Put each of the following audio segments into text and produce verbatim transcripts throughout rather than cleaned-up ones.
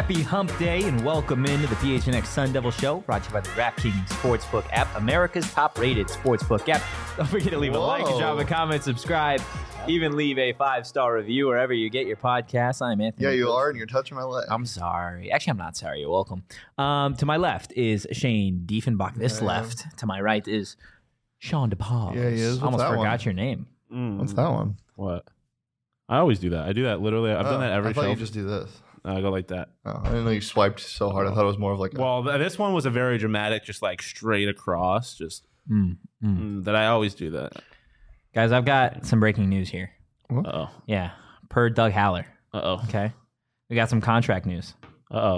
Happy Hump Day and welcome into the P H N X Sun Devil Show, brought to you by the DraftKings Sportsbook app, America's top-rated sportsbook app. Don't forget to leave Whoa. a like, drop a comment, subscribe, even leave a five-star review wherever you get your podcasts. I'm Anthony. Yeah, you Coach. are, and you're touching my leg. I'm sorry. Actually, I'm not sorry. You're welcome. Um, to my left is Shane Diefenbach. This Yeah. left. To my right is Sean DePaul. Yeah, he is. What's Almost that forgot one? your name. Mm, What's that one? What? I always do that. I do that literally. I've Oh, done that every I thought show. you just do this. I go like that. Oh, I didn't know you swiped so hard. I thought it was more of like a... Well, th- this one was a very dramatic, just like straight across, just Mm, mm. mm, that I always do that. Guys, I've got some breaking news here. Uh oh. Yeah, per Doug Haller. Uh oh. Okay, we got some contract news. Uh oh.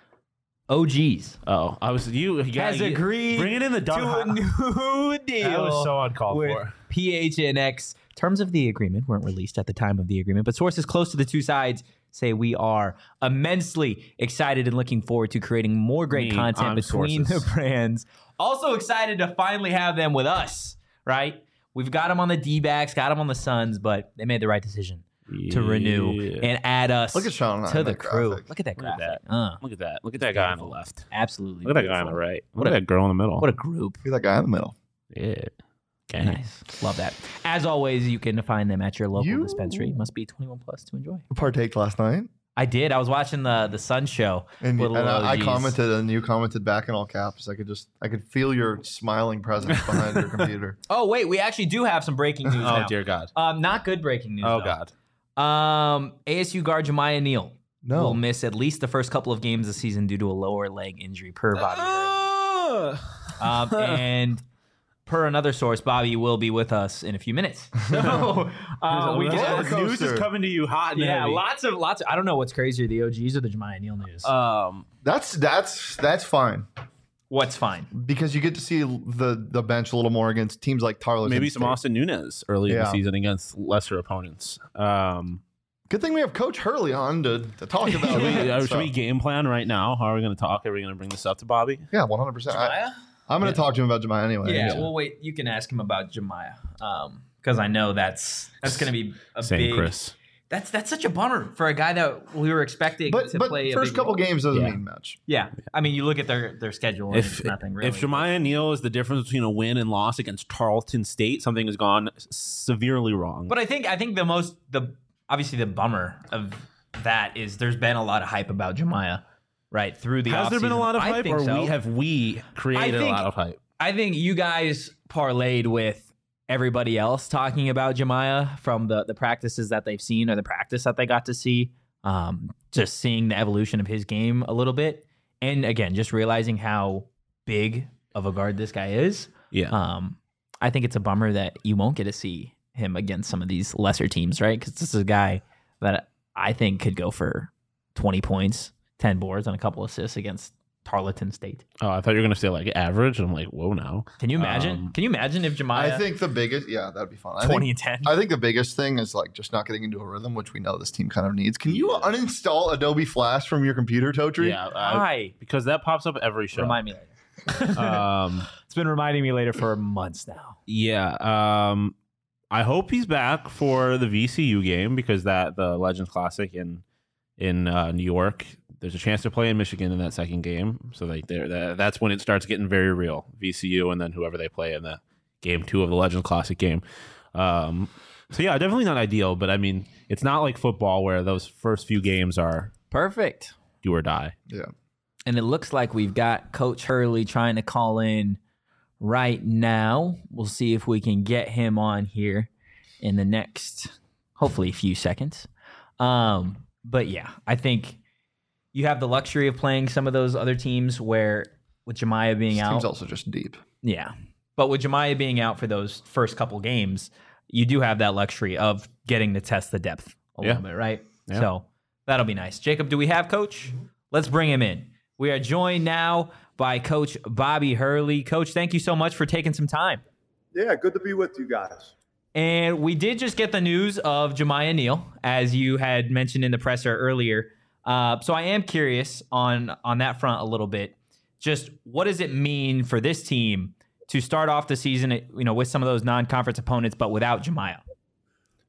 O Gs Uh oh. I was you. you has gotta- agreed Bring it in the Doug to a Ho- new deal. That was so uncalled with for. P H N X. Terms of the agreement weren't released at the time of the agreement, but sources close to the two sides say we are immensely excited and looking forward to creating more great Me, content I'm between sources. the brands. Also excited to finally have them with us, right? We've got them on the D-backs, got them on the Suns, but they made the right decision to renew Yeah. and add us Look at Sean and I to in the that crew. graphic. Look at that Look at graphic. that. Uh, Look at that. Look at that guy on the left. absolutely. Look at that guy on the beautiful. right. What Look a- at that girl in the middle. What a group. Look at that guy in the middle. Yeah. Okay. Nice. Love that. As always, you can find them at your local You- dispensary. Must be twenty-one plus to enjoy. Partake last night. I did. I was watching the the Sun show. And, with and little I, I O Gs. commented, and you commented back in all caps. I could just, I could feel your smiling presence behind your computer. Oh wait, we actually do have some breaking news Oh now. dear God. Um, not good breaking news. Oh though. God. Um, A S U guard Jemiah Neal No. will miss at least the first couple of games this season due to a lower leg injury per Bobby. Hurley. Um, and per another source, Bobby will be with us in a few minutes. So uh, we roller just, coaster. News is coming to you hot and yeah, heavy. lots of lots. Of, I don't know what's crazier, the O Gs or the Jemiah Neal news. Um. That's that's that's fine What's fine? because you get to see the the bench a little more against teams like Tarleton. Maybe some State. Austin Nunez early in Yeah. the season against lesser opponents. Um, Good thing we have Coach Hurley on to, to talk about. should, we, that uh, should stuff. we game plan right now? How are we going to talk? Are we going to bring this up to Bobby? Yeah, one hundred percent. Jemiah? I'm going to talk to him about Jemiah anyway. Yeah, Yeah. well, wait. You can ask him about Jemiah, um, because I know that's that's going to be a Same, big. Chris. That's that's such a bummer for a guy that we were expecting But to but play. a first big couple role. games doesn't Yeah. mean much. Yeah, I mean, you look at their their schedule. And If it's nothing really. if Jemiah Neal is the difference between a win and loss against Tarleton State, something has gone severely wrong. but I think I think the most the obviously the bummer of that is there's been a lot of hype about Jemiah, right through the. has there been a offseason. lot of I hype, think or so. we have we created think- a lot of hype? I think you guys parlayed with everybody else talking about Jemiah from the, the practices that they've seen or the practice that they got to see. Um, just seeing the evolution of his game a little bit. And again, just realizing how big of a guard this guy is. Yeah. Um, I think it's a bummer that you won't get to see him against some of these lesser teams, right? Because this is a guy that I think could go for twenty points, ten boards, and a couple assists against Tarleton State. Oh, I thought you were going to say like average. I'm like, whoa, now. Can you imagine? Um, Can you imagine if Jemiah I think the biggest, yeah, that'd be fun. I twenty think, and ten? I think the biggest thing is like just not getting into a rhythm, which we know this team kind of needs. Can you Yeah. uninstall Adobe Flash from your computer, Totri? Yeah, I- Hi. because that pops up every show. Remind me later. um, It's been reminding me later for months now. yeah. Um, I hope he's back for the V C U game because that the Legends Classic in in uh, New York. There's a chance to play in Michigan in that second game, so like there, that, that's when it starts getting very real. V C U and then whoever they play in the game two of the Legends Classic game. Um, so yeah, definitely not ideal, but I mean, it's not like football where those first few games are Perfect. do or die. Yeah. And it looks like we've got Coach Hurley trying to call in right now. We'll see if we can get him on here in the next, hopefully, few seconds. Um, but yeah, I think you have the luxury of playing some of those other teams where with Jemiah being This out. team's also just deep. Yeah. But with Jemiah being out for those first couple games, you do have that luxury of getting to test the depth a Yeah. little bit, right? Yeah. So that'll be nice. Jacob, do we have Coach? Let's bring him in. We are joined now by Coach Bobby Hurley. Coach, thank you so much for taking some time. Yeah, good to be with you guys. And we did just get the news of Jemiah Neal, as you had mentioned in the presser earlier. Uh, so I am curious on on that front a little bit. Just what does it mean for this team to start off the season, you know, with some of those non-conference opponents, but without Jemiah?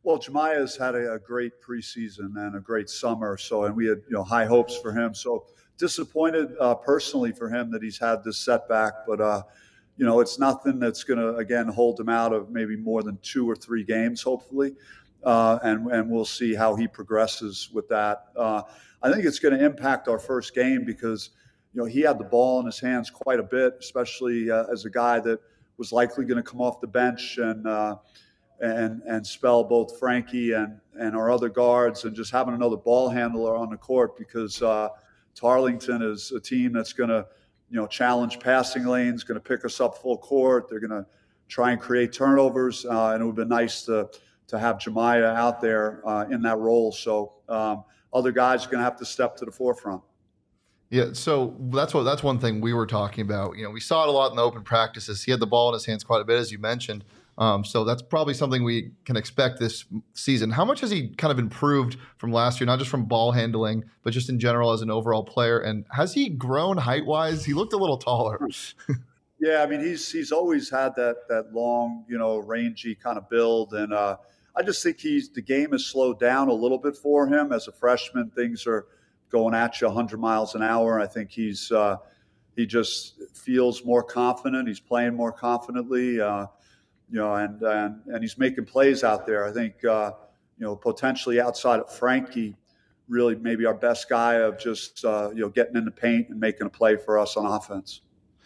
Well, Jemiah's had a, a great preseason and a great summer. So, and we had, you know, high hopes for him. So disappointed uh, personally for him that he's had this setback, but, uh, you know, it's nothing that's going to, again, hold him out of maybe more than two or three games, hopefully. Uh, and, and we'll see how he progresses with that. Uh, I think it's going to impact our first game because, you know, he had the ball in his hands quite a bit, especially uh, as a guy that was likely going to come off the bench and, uh, and and spell both Frankie and, and our other guards, and just having another ball handler on the court because uh, Tarleton is a team that's going to, you know, challenge passing lanes, going to pick us up full court. They're going to try and create turnovers, uh, and it would have been nice to to have Jemiah out there uh, in that role. So um, other guys are going to have to step to the forefront. Yeah, so that's what that's one thing we were talking about. You know, we saw it a lot in the open practices. He had the ball in his hands quite a bit, as you mentioned. Um, so that's probably something we can expect this season. How much has he kind of improved from last year, not just from ball handling, but just in general as an overall player? And has he grown height-wise? He looked a little taller. Yeah, I mean, he's he's always had that that long, you know, rangy kind of build. And uh, I just think he's the game has slowed down a little bit for him. As a freshman, things are going at you one hundred miles an hour. I think he's uh, he just feels more confident. He's playing more confidently. Uh, You know, and, and and he's making plays out there. I think, uh, you know, potentially outside of Frankie, really maybe our best guy of just, uh, you know, getting in the paint and making a play for us on offense.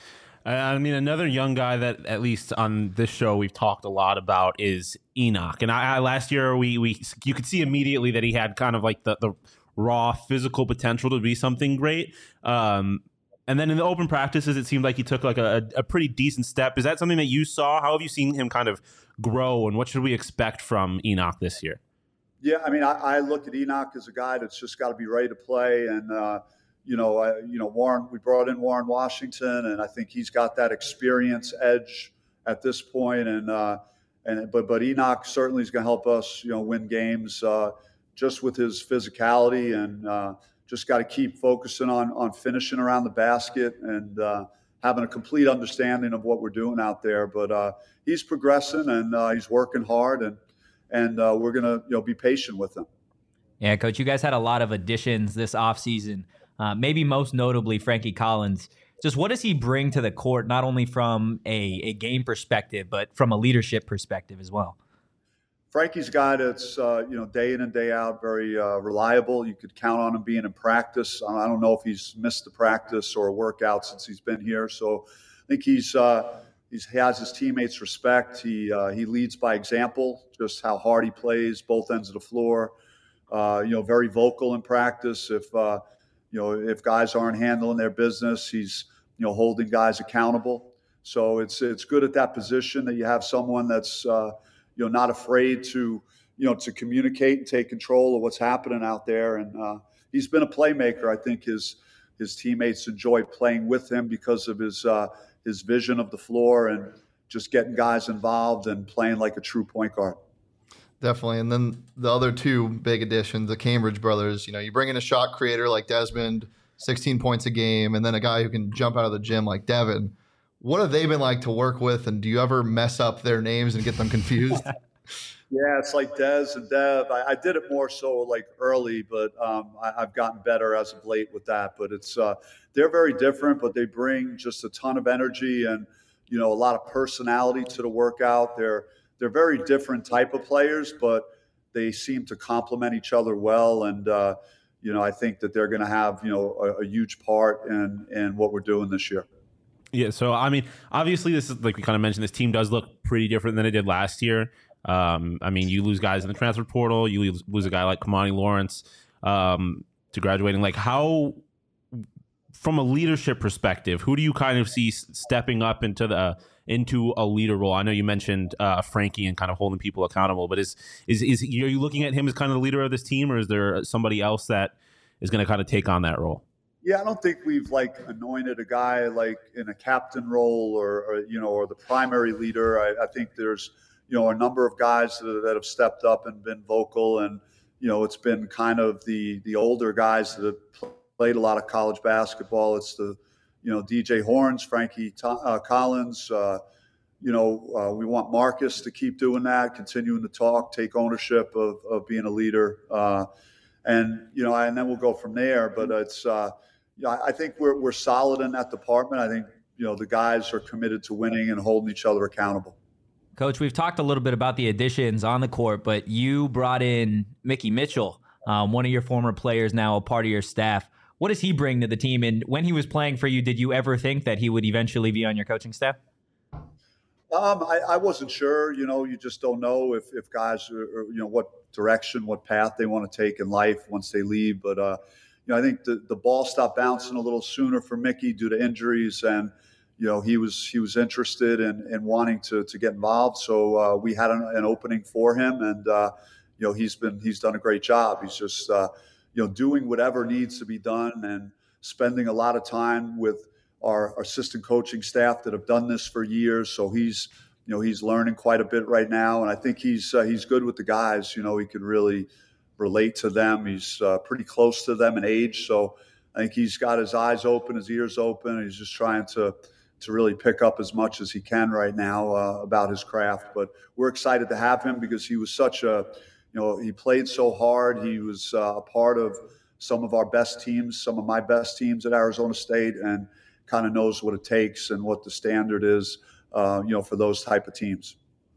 I mean, another young guy that at least on this show we've talked a lot about is Enoch. And I, I last year we we you could see immediately that he had kind of like the, the raw physical potential to be something great. Um, And then in the open practices, it seemed like he took like a, a pretty decent step. Is that something that you saw? How have you seen him kind of grow, and what should we expect from Enoch this year? Yeah, I mean, I, I look at Enoch as a guy that's just got to be ready to play. And, uh, you know, I, you know, Warren, we brought in Warren Washington, and I think he's got that experience edge at this point. And, uh, and but, but Enoch certainly is going to help us, you know, win games uh, just with his physicality and, uh, just got to keep focusing on on finishing around the basket and uh, having a complete understanding of what we're doing out there. But uh, he's progressing and uh, he's working hard, and and uh, we're gonna you know be patient with him. Yeah, Coach, you guys had a lot of additions this offseason, uh, maybe most notably Frankie Collins. Just what does he bring to the court, not only from a, a game perspective, but from a leadership perspective as well? Frankie's a guy that's, uh, you know, day in and day out, very uh, reliable. You could count on him being in practice. I don't know if he's missed a practice or a workout since he's been here. So I think he's, uh, he's he has his teammates' respect. He uh, he leads by example, just how hard he plays, both ends of the floor. Uh, you know, very vocal in practice. If, uh, you know, if guys aren't handling their business, he's, you know, holding guys accountable. So it's it's good at that position that you have someone that's, uh, you know, not afraid to, you know, to communicate and take control of what's happening out there. And uh, he's been a playmaker. I think his his teammates enjoy playing with him because of his uh, his vision of the floor and just getting guys involved and playing like a true point guard. Definitely. And then the other two big additions, the Cambridge brothers, you know, you bring in a shot creator like Desmond, sixteen points a game, and then a guy who can jump out of the gym like Devin. What have they been like to work with, and do you ever mess up their names and get them confused? Yeah, it's like Dez and Dev. I, I did it more so like early, but um, I, I've gotten better as of late with that. But it's uh, they're very different, but they bring just a ton of energy and, you know, a lot of personality to the workout. They're they're very different type of players, but they seem to complement each other well. And uh, you know, I think that they're going to have, you know, a, a huge part in in what we're doing this year. Yeah, so I mean, obviously, this is like we kind of mentioned. This team does look pretty different than it did last year. Um, I mean, you lose guys in the transfer portal. You lose, lose a guy like Kamani Lawrence um, to graduating. Like, how, from a leadership perspective, who do you kind of see stepping up into the into a leader role? I know you mentioned uh, Frankie and kind of holding people accountable, but is is is are you looking at him as kind of the leader of this team, or is there somebody else that is going to kind of take on that role? Yeah, I don't think we've like anointed a guy like in a captain role or, or you know, or the primary leader. I, I think there's, you know, a number of guys that, that have stepped up and been vocal, and, you know, it's been kind of the the older guys that have played a lot of college basketball. It's the, you know, D J Horns, Frankie uh, Collins, uh, you know, uh, we want Marcus to keep doing that, continuing to talk, take ownership of, of being a leader. Uh, and, you know, and then we'll go from there. But it's, uh, you know, I think we're, we're solid in that department. I think, you know, the guys are committed to winning and holding each other accountable. Coach, we've talked a little bit about the additions on the court, but you brought in Mickey Mitchell, um, one of your former players, now a part of your staff. What does he bring to the team? And when he was playing for you, did you ever think that he would eventually be on your coaching staff? Um, I, I wasn't sure. You know, you just don't know if, if guys are, are, you know, what direction, what path they want to take in life once they leave. But, uh, you know, I think the, the ball stopped bouncing a little sooner for Mickey due to injuries. And, you know, he was he was interested in, in wanting to, to get involved. So uh, we had an, an opening for him. And, uh, you know, he's been he's done a great job. He's just, uh, you know, doing whatever needs to be done and spending a lot of time with our assistant coaching staff that have done this for years. So he's, you know, he's learning quite a bit right now. And I think he's, uh, he's good with the guys. You know, he can really relate to them. He's uh, pretty close to them in age. So I think he's got his eyes open, his ears open. He's just trying to, to really pick up as much as he can right now uh, about his craft. But we're excited to have him because he was such a, you know, he played so hard. He was uh, a part of some of our best teams, some of my best teams at Arizona State, and kind of knows what it takes and what the standard is, uh, you know, for those type of teams.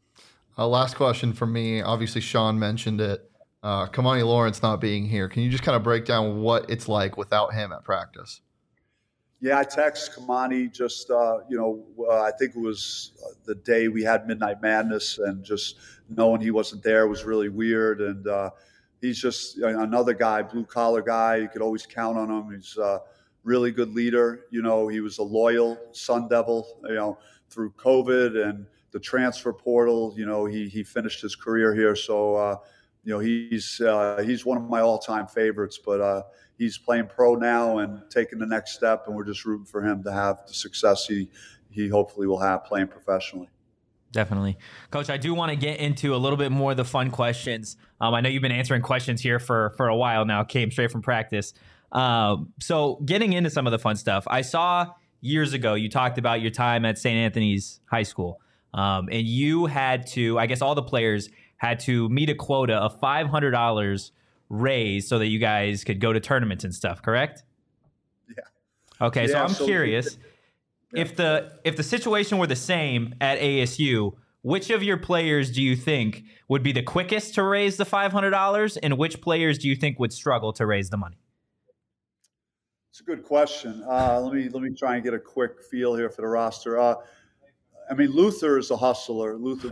Uh, last question from me. Obviously, Sean mentioned it. Uh, Kamani Lawrence not being here. Can you just kind of break down what it's like without him at practice? Yeah, I text Kamani just, uh, you know, uh, I think it was the day we had Midnight Madness, and just knowing he wasn't there was really weird. And uh, he's just another guy, blue-collar guy. You could always count on him. He's uh really good leader. You know, he was a loyal Sun Devil, you know, through COVID and the transfer portal. You know, he he finished his career here. So, uh, you know, he's uh, he's one of my all-time favorites, but uh, he's playing pro now and taking the next step, and we're just rooting for him to have the success he, he hopefully will have playing professionally. Definitely. Coach, I do want to get into a little bit more of the fun questions. Um, I know you've been answering questions here for, for a while now, came straight from practice. Um, so getting into some of the fun stuff, I saw years ago, you talked about your time at Saint Anthony's High School. Um, and you had to, I guess all the players had to meet a quota of five hundred dollars raised so that you guys could go to tournaments and stuff, correct? Yeah. Okay. Yeah, so I'm so curious yeah. if the, if the situation were the same at A S U, which of your players do you think would be the quickest to raise the five hundred dollars, and which players do you think would struggle to raise the money? It's a good question. Uh, let me let me try and get a quick feel here for the roster. Uh, I mean, Luther is a hustler. Luther,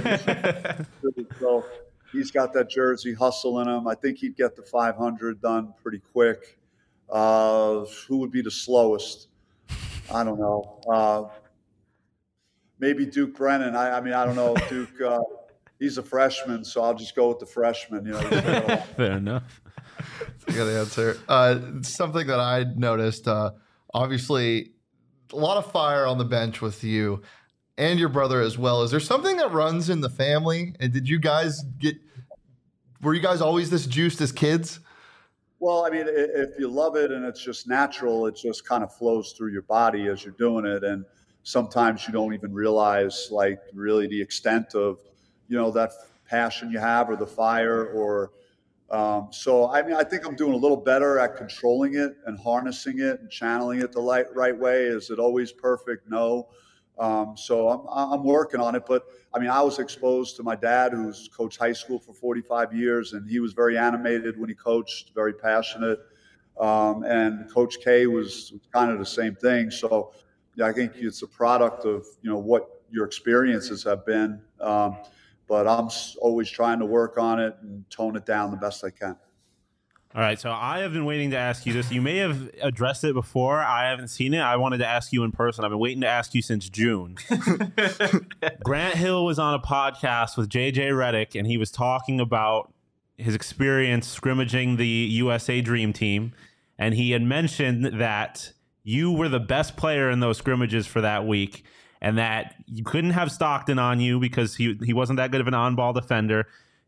so he's got that jersey hustle in him. I think he'd get the five hundred done pretty quick. Uh, who would be the slowest? I don't know. Uh, maybe Duke Brennan. I, I mean, I don't know. Duke. Uh, he's a freshman, so I'll just go with the freshman. You know. Fair enough. Good answer. Uh, something that I noticed, uh, obviously, a lot of fire on the bench with you and your brother as well. Is there something that runs in the family? And did you guys get, were you guys always this juiced as kids? Well, I mean, if you love it and it's just natural, it just kind of flows through your body as you're doing it. And sometimes you don't even realize, like, really the extent of, you know, that passion you have, or the fire, or Um, so, I mean, I think I'm doing a little better at controlling it and harnessing it and channeling it the right, right way. Is it always perfect? No. Um, so I'm, I'm working on it. But, I mean, I was exposed to my dad, who's coached high school for forty-five years, and he was very animated when he coached, very passionate. Um, and Coach K was, was kind of the same thing. So, yeah, I think it's a product of, you know, what your experiences have been. Um, But I'm always trying to work on it and tone it down the best I can. All right, so I have been waiting to ask you this. You may have addressed it before. I haven't seen it. I wanted to ask you in person. I've been waiting to ask you since June. Grant Hill was on a podcast with J J Redick, and he was talking about his experience scrimmaging the U S A Dream Team, and he had mentioned that you were the best player in those scrimmages for that week, and that you couldn't have Stockton on you because he he wasn't that good of an on-ball defender.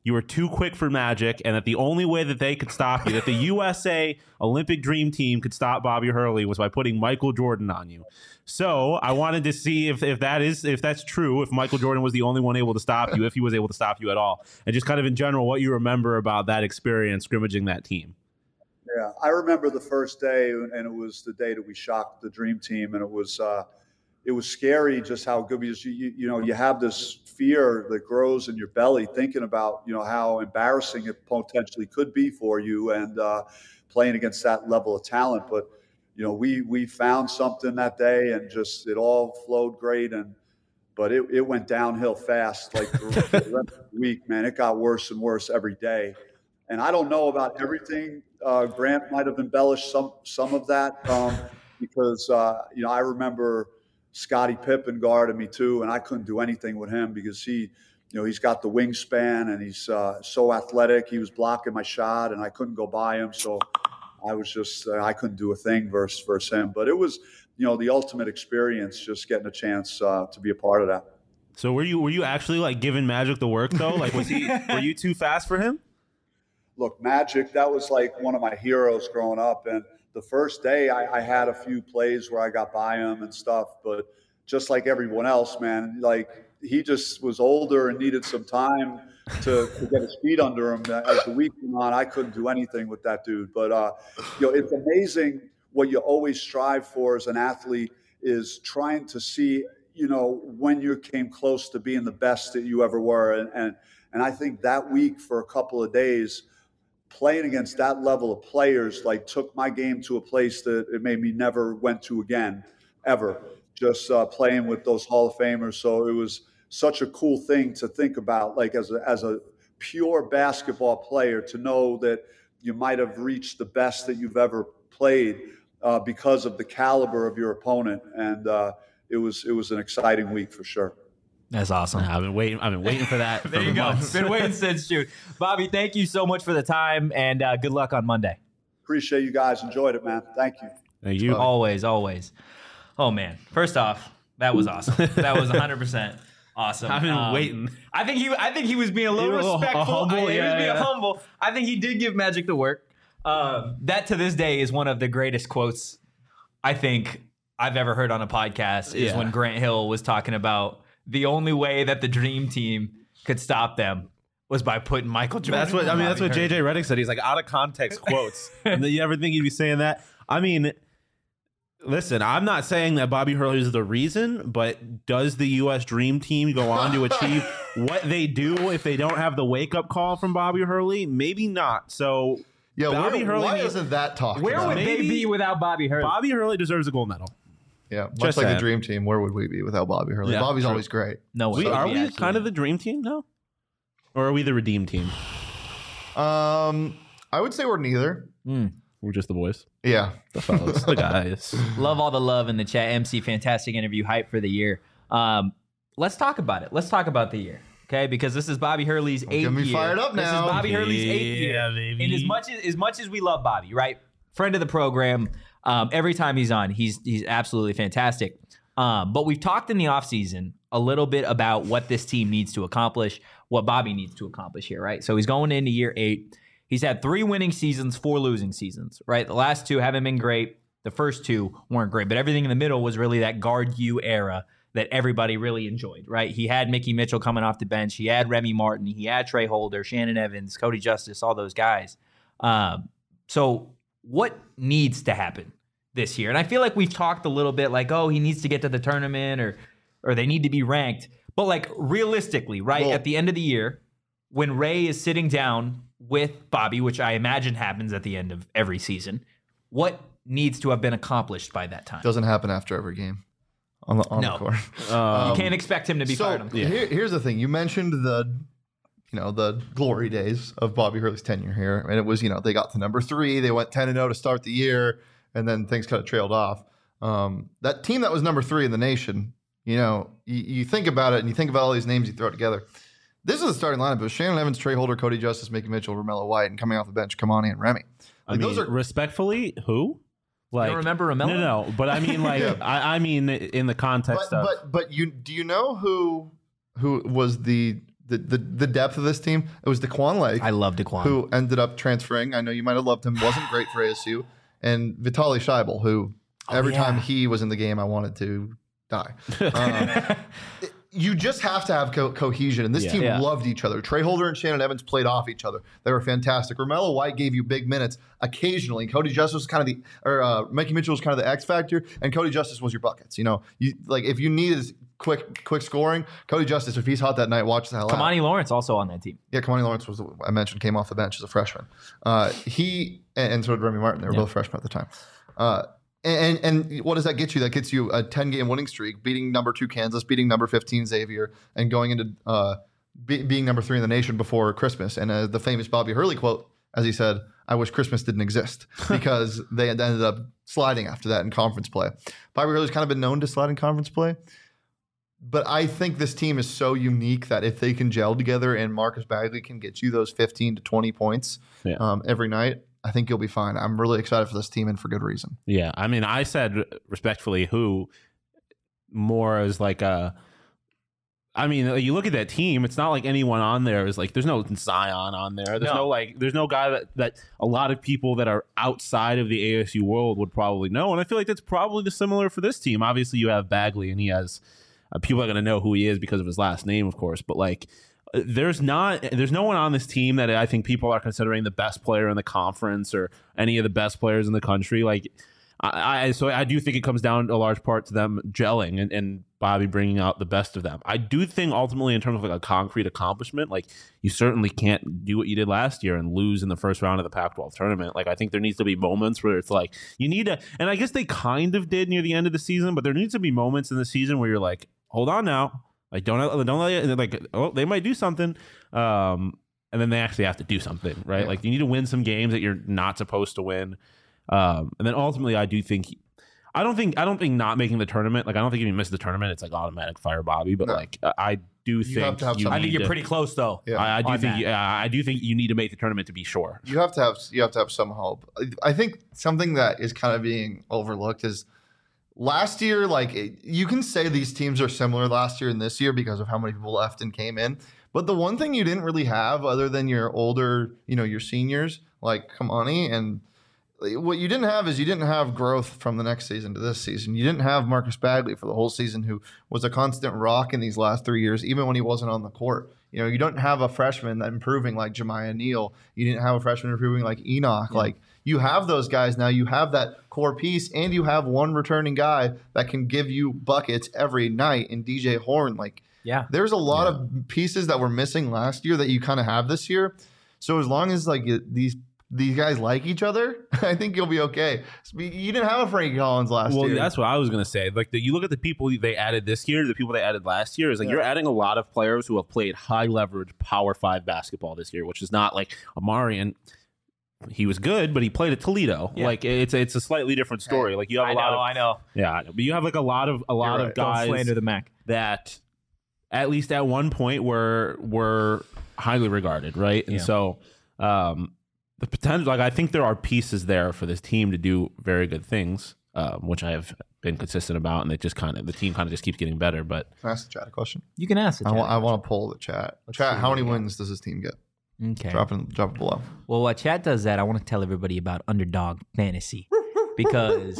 you were too quick for Magic, and that the only way that they could stop you, that the U S A Olympic Dream Team could stop Bobby Hurley, was by putting Michael Jordan on you. So I wanted to see if, if that is if that's true, if Michael Jordan was the only one able to stop you, if he was able to stop you at all, and just kind of in general what you remember about that experience scrimmaging that team. Yeah, I remember the first day, and it was the day that we shocked the Dream Team, and it was uh, it was scary just how good, because you, you you know you have this fear that grows in your belly thinking about you know how embarrassing it potentially could be for you, and uh, playing against that level of talent, but. You know, we we found something that day, and just it all flowed great, and but it, it went downhill fast. Like the rest of the week, man, it got worse and worse every day. And I don't know about everything. Uh, Grant might have embellished some some of that um, because uh, you know I remember Scottie Pippen guarded me too, and I couldn't do anything with him because he, you know, he's got the wingspan and he's uh, so athletic. He was blocking my shot, and I couldn't go by him, so. I was just, uh, I couldn't do a thing versus, versus him. But it was, you know, the ultimate experience, just getting a chance uh, to be a part of that. So were you were you actually like giving Magic the work though? Like was he were you too fast for him? Look, Magic, that was like one of my heroes growing up. And the first day I, I had a few plays where I got by him and stuff. But just like everyone else, man, like he just was older and needed some time to, to get his feet under him. As the week went on, I couldn't do anything with that dude. But, uh, you know, it's amazing what you always strive for as an athlete is trying to see, you know, when you came close to being the best that you ever were. And, and, and I think that week for a couple of days, playing against that level of players, like took my game to a place that it made me never went to again, ever. Just uh, playing with those Hall of Famers. So it was such a cool thing to think about, like as a, as a pure basketball player, to know that you might have reached the best that you've ever played uh, because of the caliber of your opponent. And uh, it was it was an exciting week for sure. That's awesome. I've been waiting. I've been waiting for that. There for you go. months. Been waiting since June. Bobby, thank you so much for the time, and uh, good luck on Monday. Appreciate you guys. Enjoyed it, man. Thank you. Thank you. Always, always. Oh man! First off, that was awesome. That was one hundred percent awesome. I've been Um, waiting. I think he. I think he was being a little He was a little- a respectful. humble, I- he was yeah, being yeah. humble. I think he did give Magic the work. Um, that to this day is one of the greatest quotes I think I've ever heard on a podcast. Is Yeah. when Grant Hill was talking about the only way that the Dream Team could stop them was by putting Michael Jordan. That's what I on mean. That's what Bobby J J Redick said. He's like out of context quotes. And then you ever think he'd be saying that? I mean, listen, I'm not saying that Bobby Hurley is the reason, but does the U S Dream Team go on to achieve what they do if they don't have the wake up call from Bobby Hurley? Maybe not. So Yeah, Bobby where, Hurley why needs- isn't that talked Where about? would they Maybe- be without Bobby Hurley? Bobby Hurley deserves a gold medal. Yeah, much Just like saying. the Dream Team, where would we be without Bobby Hurley? Yeah, Bobby's true. always great. No way. We, are we absolutely kind of the dream team now? Or are we the redeem team? Um, I would say we're neither. We're just the boys. Yeah. The fellas. The guys. Love all the love in the chat. M C, fantastic interview, hype for the year. Um, let's talk about it. Let's talk about the year, okay? Because this is Bobby Hurley's eighth get me year. fired up This now. is Bobby Hurley's eighth Yeah, year. baby. And as much as as much as we love Bobby, right? Friend of the program. Um, every time he's on, he's he's absolutely fantastic. Um, but we've talked in the offseason a little bit about what this team needs to accomplish, what Bobby needs to accomplish here, right? So he's going into year eight. He's had three winning seasons, four losing seasons, right? The last two haven't been great. The first two weren't great, but everything in the middle was really that guard you era that everybody really enjoyed, right? He had Mickey Mitchell coming off the bench. He had Remy Martin. He had Trey Holder, Shannon Evans, Cody Justice, all those guys. Um, so what needs to happen this year? And I feel like we've talked a little bit like, oh, he needs to get to the tournament or or they need to be ranked. But like realistically, right, Well- at the end of the year, when Ray is sitting down with Bobby, which I imagine happens at the end of every season, what needs to have been accomplished by that time? Doesn't happen after every game on the, on No. the court. Um, You can't expect him to be so fired on the court. here, here's the thing. You mentioned the, you know, the glory days of Bobby Hurley's tenure here. And it was, you know, they got to number three. They went ten and oh to start the year. And then things kind of trailed off. Um, that team that was number three in the nation, you know, you, you think about it and you think about all these names you throw together. This is the starting lineup. It was Shannon Evans, Trey Holder, Cody Justice, Mickey Mitchell, Romello White, and coming off the bench, Kamani and Remy. I Like, mean, those are respectfully, who? Like, don't remember Romello? No, no, but I mean, like, Yeah. I, I mean, in the context but, of but but you do you know who who was the the, the the depth of this team. It was DeQuan Lake. I love DeQuan. Who ended up transferring. I know you might have loved him. Wasn't great for A S U. And Vitaly Scheibel, who Oh, every yeah. time he was in the game, I wanted to die. Um, it- you just have to have co- cohesion. And this Yeah. team Yeah. loved each other. Trey Holder and Shannon Evans played off each other. They were fantastic. Romello White gave you big minutes occasionally. Cody Justice was kind of the, or uh, Mikey Mitchell was kind of the X factor, and Cody Justice was your buckets. You know, you like if you needed quick quick scoring, Cody Justice, if he's hot that night, watch the hell out. Kamani Lawrence also on that team. Yeah, Kamani Lawrence was the, I mentioned came off the bench as a freshman. Uh, he and, and so did Remy Martin. They were Yeah. both freshmen at the time. Uh, and and what does that get you? That gets you a ten game winning streak, beating number two Kansas, beating number fifteen Xavier, and going into uh, be, being number three in the nation before Christmas. And uh, the famous Bobby Hurley quote, as he said, "I wish Christmas didn't exist," because they had ended up sliding after that in conference play. Bobby Hurley's kind of been known to slide in conference play. But I think this team is so unique that if they can gel together and Marcus Bagley can get you those fifteen to twenty points Yeah. um, every night, I think you'll be fine. I'm really excited for this team and for good reason. Yeah, I mean, I said respectfully who more as like a. I mean, you look at that team. It's not like anyone on there is like. There's no Zion on there. There's no, No. like. There's no guy that that a lot of people that are outside of the A S U world would probably know. And I feel like that's probably the similar for this team. Obviously, you have Bagley, and he has uh, people are going to know who he is because of his last name, of course. But like, uh, there's not. There's no one on this team that I think people are considering the best player in the conference or any of the best players in the country. Like. I, I so I do think it comes down a large part to them gelling and, and Bobby bringing out the best of them. I do think ultimately in terms of like a concrete accomplishment, like you certainly can't do what you did last year and lose in the first round of the Pac twelve tournament. Like I think there needs to be moments where it's like you need to, and I guess they kind of did near the end of the season, but there needs to be moments in the season where you're like, hold on now, like don't don't let it, like oh they might do something. Um, and then they actually have to do something, right? Yeah. Like you need to win some games that you're not supposed to win. Um, and then ultimately, I do think, I don't think, I don't think not making the tournament, like I don't think if you miss the tournament, it's like automatic fire Bobby. But No. like uh, I do think have to have you some- I need think you're to- pretty close though. Yeah. I, I do on think, that. yeah, I do think you need to make the tournament to be sure. You have to have you have to have some hope. I think something that is kind of being overlooked is last year. Like it- you can say these teams are similar last year and this year because of how many people left and came in. But the one thing you didn't really have, other than your older, you know, your seniors like Kamani, and what you didn't have is you didn't have growth from the next season to this season. You didn't have Marcus Bagley for the whole season, who was a constant rock in these last three years, even when he wasn't on the court. You know, you don't have a freshman that improving like Jemiah Neal. You didn't have a freshman improving like Enoch. Yeah. Like you have those guys now. You have that core piece, and you have one returning guy that can give you buckets every night in D J Horn. Like Yeah. there's a lot of pieces that were missing last year that you kind of have this year. So as long as like it- these these guys like each other, I think you'll be okay. You didn't have a Frankie Collins last Well, year. that's what I was gonna say. Like the, you look at the people they added this year, the people they added last year, is like Yeah. you're adding a lot of players who have played high leverage Power Five basketball this year, which is not like Amari and. He was good, but he played at Toledo. Yeah. Like it's it's a slightly different story. Like you have a I lot know, of I know. yeah, I know. But you have like a lot of a lot right. of Don't guys slander the Mac. that at least at one point were were highly regarded, right? And Yeah. so um, the potential, like I think there are pieces there for this team to do very good things, um, which I have been consistent about, and it just kind of the team kind of just keeps getting better. But Can I ask the chat a question? You can ask it. I want, I want to poll the chat. Chat, see how what many we got. wins does this team get? Okay. Drop it, drop it below. Well, while chat does that, I want to tell everybody about Underdog Fantasy because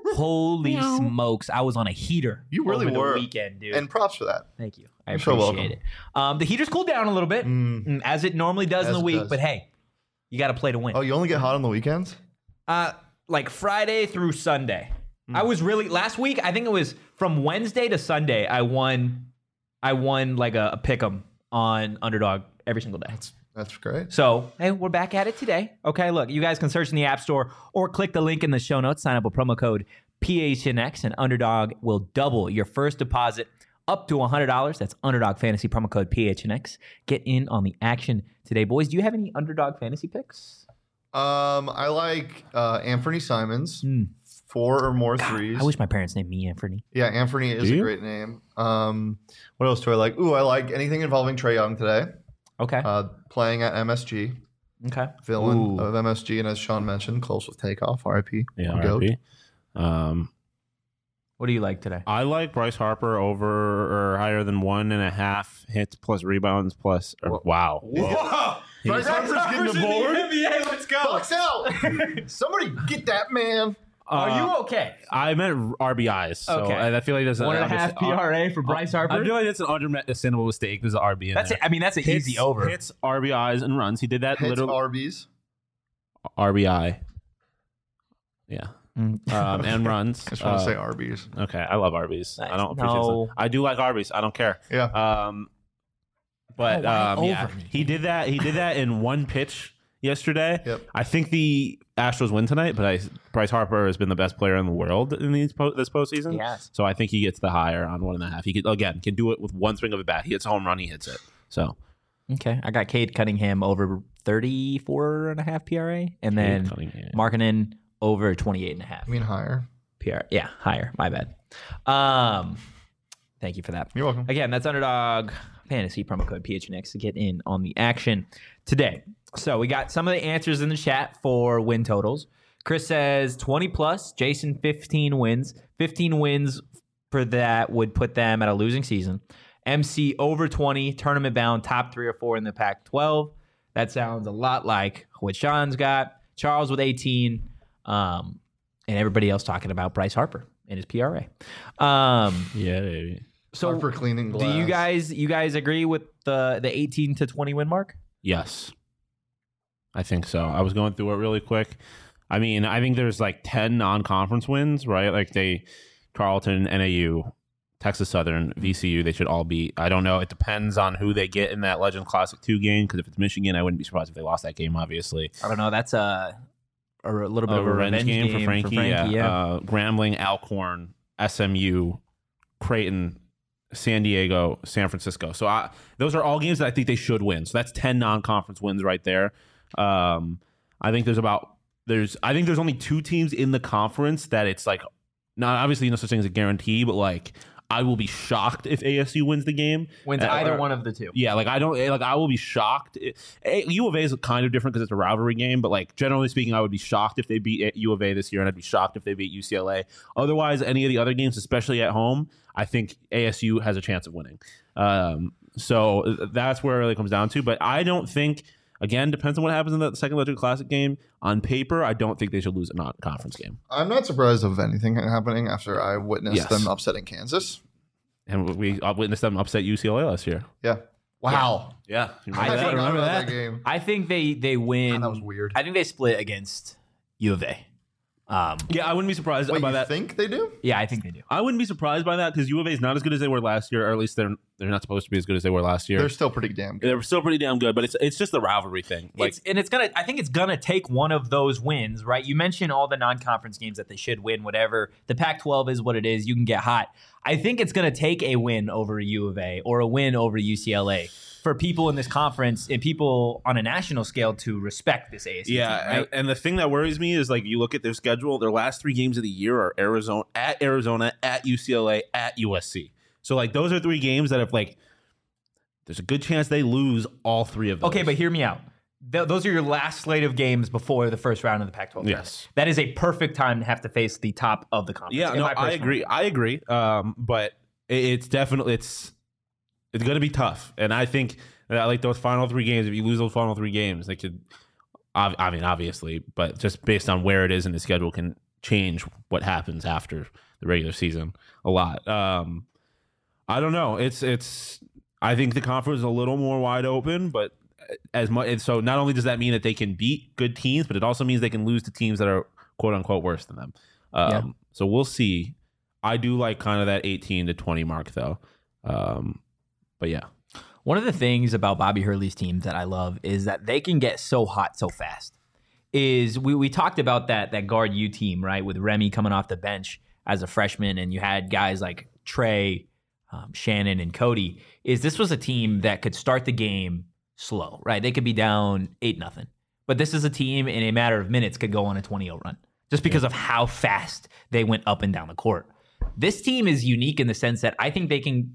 holy smokes, I was on a heater. You really over were. the weekend, dude. And props for that. Thank you. I You're so appreciate welcome. it. Um, the heater's cooled down a little bit, Mm. mm, as it normally does in As the it week. does. But hey, you got to play to win. Oh, you only get hot on the weekends? Uh, like Friday through Sunday. Hmm. I was really last week. I think it was from Wednesday to Sunday. I won. I won like a, a pick'em on Underdog every single day. That's great. So, hey, we're back at it today. Okay, look, you guys can search in the App Store or click the link in the show notes, sign up with promo code P H N X, and Underdog will double your first deposit up to one hundred dollars. That's Underdog Fantasy, promo code P H N X. Get in on the action today, boys. Do you have any Underdog Fantasy picks? Um, I like uh, Anthony Simons, Hmm. four or more threes. I wish my parents named me Anthony. Yeah, Anthony is Do a you? great name. Um, what else do I like? Ooh, I like anything involving Trae Young today. Okay. Uh, playing at M S G, okay. villain Ooh. of M S G, and as Sean mentioned, close with takeoff. R I P. yeah, Goat. R I P. Um, What do you like today? I like Bryce Harper over or higher than one and a half hits plus rebounds plus. Or, wow. Whoa. Bryce Harper's getting the board. N B A, let's go. Bucks out. Somebody get that man. Are Uh, you okay? I meant R B Is. So Okay. I, I feel like there's One and a I'm half just- P R A for Bryce Harper? I feel like it's an understandable mistake. There's an R B in That's there. it. I mean, that's an Hits- easy over. Hits, R B Is, and runs. He did that Hits literally. Arby's. R B I. Yeah. Mm. Um, and runs. I just want to Uh, say Arby's. Okay, I love Arby's. Nice. I don't appreciate No. it. I do like Arby's. I don't care. Yeah. Um, but Oh, why um, yeah, over me? he did that. He did that in one pitch yesterday. Yep. I think the Astros win tonight, but I, Bryce Harper has been the best player in the world in these po- this postseason. Yes. So I think he gets the higher on one and a half. He could, again can do it with one swing of a bat. He hits a home run. He hits it. So Okay. I got Cade Cunningham over thirty-four and a half P R A. And then Cunningham. Markkanen over twenty-eight and a half I mean higher. P R A. Yeah, higher. My bad. Um, thank you for that. You're welcome. Again, that's Underdog Fantasy promo code P H N X to get in on the action today. So we got some of the answers in the chat for win totals. Chris says twenty plus. Jason, fifteen wins. fifteen wins for that would put them at a losing season. M C over twenty, tournament bound, top three or four in the Pac twelve. That sounds a lot like what Sean's got. Charles with eighteen, um, and everybody else talking about Bryce Harper and his P R A. Um, yeah, baby. so Harper cleaning glass. do you guys you guys agree with the the eighteen to twenty win mark? Yes, I think so. I was going through it really quick. I mean, I think there's like ten non-conference wins, right? Like they, Tarleton, N A U, Texas Southern, V C U, they should all be. I don't know. It depends on who they get in that Legend Classic two game. Because if it's Michigan, I wouldn't be surprised if they lost that game. Obviously, I don't know. That's a a little bit a of a revenge, game, for Frankie. yeah, yeah. Uh, Grambling, Alcorn, S M U, Creighton, San Diego, San Francisco. So I, those are all games that I think they should win. So that's ten non-conference wins right there. Um, I think there's about there's I think there's only two teams in the conference that it's like not obviously no such thing as a guarantee, but like I will be shocked if A S U wins the game. Wins Uh, either or- one of the two. Yeah, like I don't like I will be shocked. It, eh, U of A is kind of different because it's a rivalry game, but like generally speaking, I would be shocked if they beat U of A this year, and I'd be shocked if they beat U C L A. Otherwise, any of the other games, especially at home, I think A S U has a chance of winning. Um, so that's where it really comes down to. But I don't think. Again, depends on what happens in the second Legend Classic game. On paper, I don't think they should lose a non-conference game. I'm not surprised of anything happening after I witnessed Yes. them upsetting Kansas. And we uh, witnessed them upset U C L A last year. Yeah. Wow. Yeah, you I, remember that? forgot Remember about that? that game. I think they they win. God, that was weird. I think they split against U of A. Um, Yeah, I wouldn't be surprised Wait, by you that. think they do? yeah, I think they do. I wouldn't be surprised by that because U of A is not as good as they were last year, or at least they're they're not supposed to be as good as they were last year. They're still pretty damn good. They're still pretty damn good, but it's it's just the rivalry thing. Like, It's, and it's gonna. I think it's gonna take one of those wins, right? You mentioned all the non-conference games that they should win. Whatever the Pac twelve is, what it is. You can get hot. I think it's gonna take a win over U of A or a win over U C L A for people in this conference and people on a national scale to respect this A S U yeah, team, right? and, and the thing that worries me is like you look at their schedule. Their last three games of the year are Arizona at Arizona, at U C L A, at U S C. So like those are three games that have like there's a good chance they lose all three of those. Okay, but hear me out. Th- those are your last slate of games before the first round of the Pac twelve. Yes. That is a perfect time to have to face the top of the conference. yeah, in no, my I personal agree. I agree. Um, but it, it's definitely it's it's going to be tough, and I think that like those final three games, if you lose those final three games, they could. I, I mean, obviously, but just based on where it is in the schedule, can change what happens after the regular season a lot. Um, I don't know. It's it's. I think the conference is a little more wide open, but as much and so not only does that mean that they can beat good teams, but it also means they can lose to teams that are quote unquote worse than them. Um, Yeah. So we'll see. I do like kind of that eighteen to twenty mark though. Um, but yeah, One of the things about Bobby Hurley's teams that I love is that they can get so hot so fast. Is we, we talked about that that guard U team, right? With Remy coming off the bench as a freshman, and you had guys like Trey, um, Shannon, and Cody. Is this was a team that could start the game slow, right? They could be down eight nothing, but this is a team in a matter of minutes could go on a twenty oh run just because of how fast they went up and down the court. This team is unique in the sense that I think they can.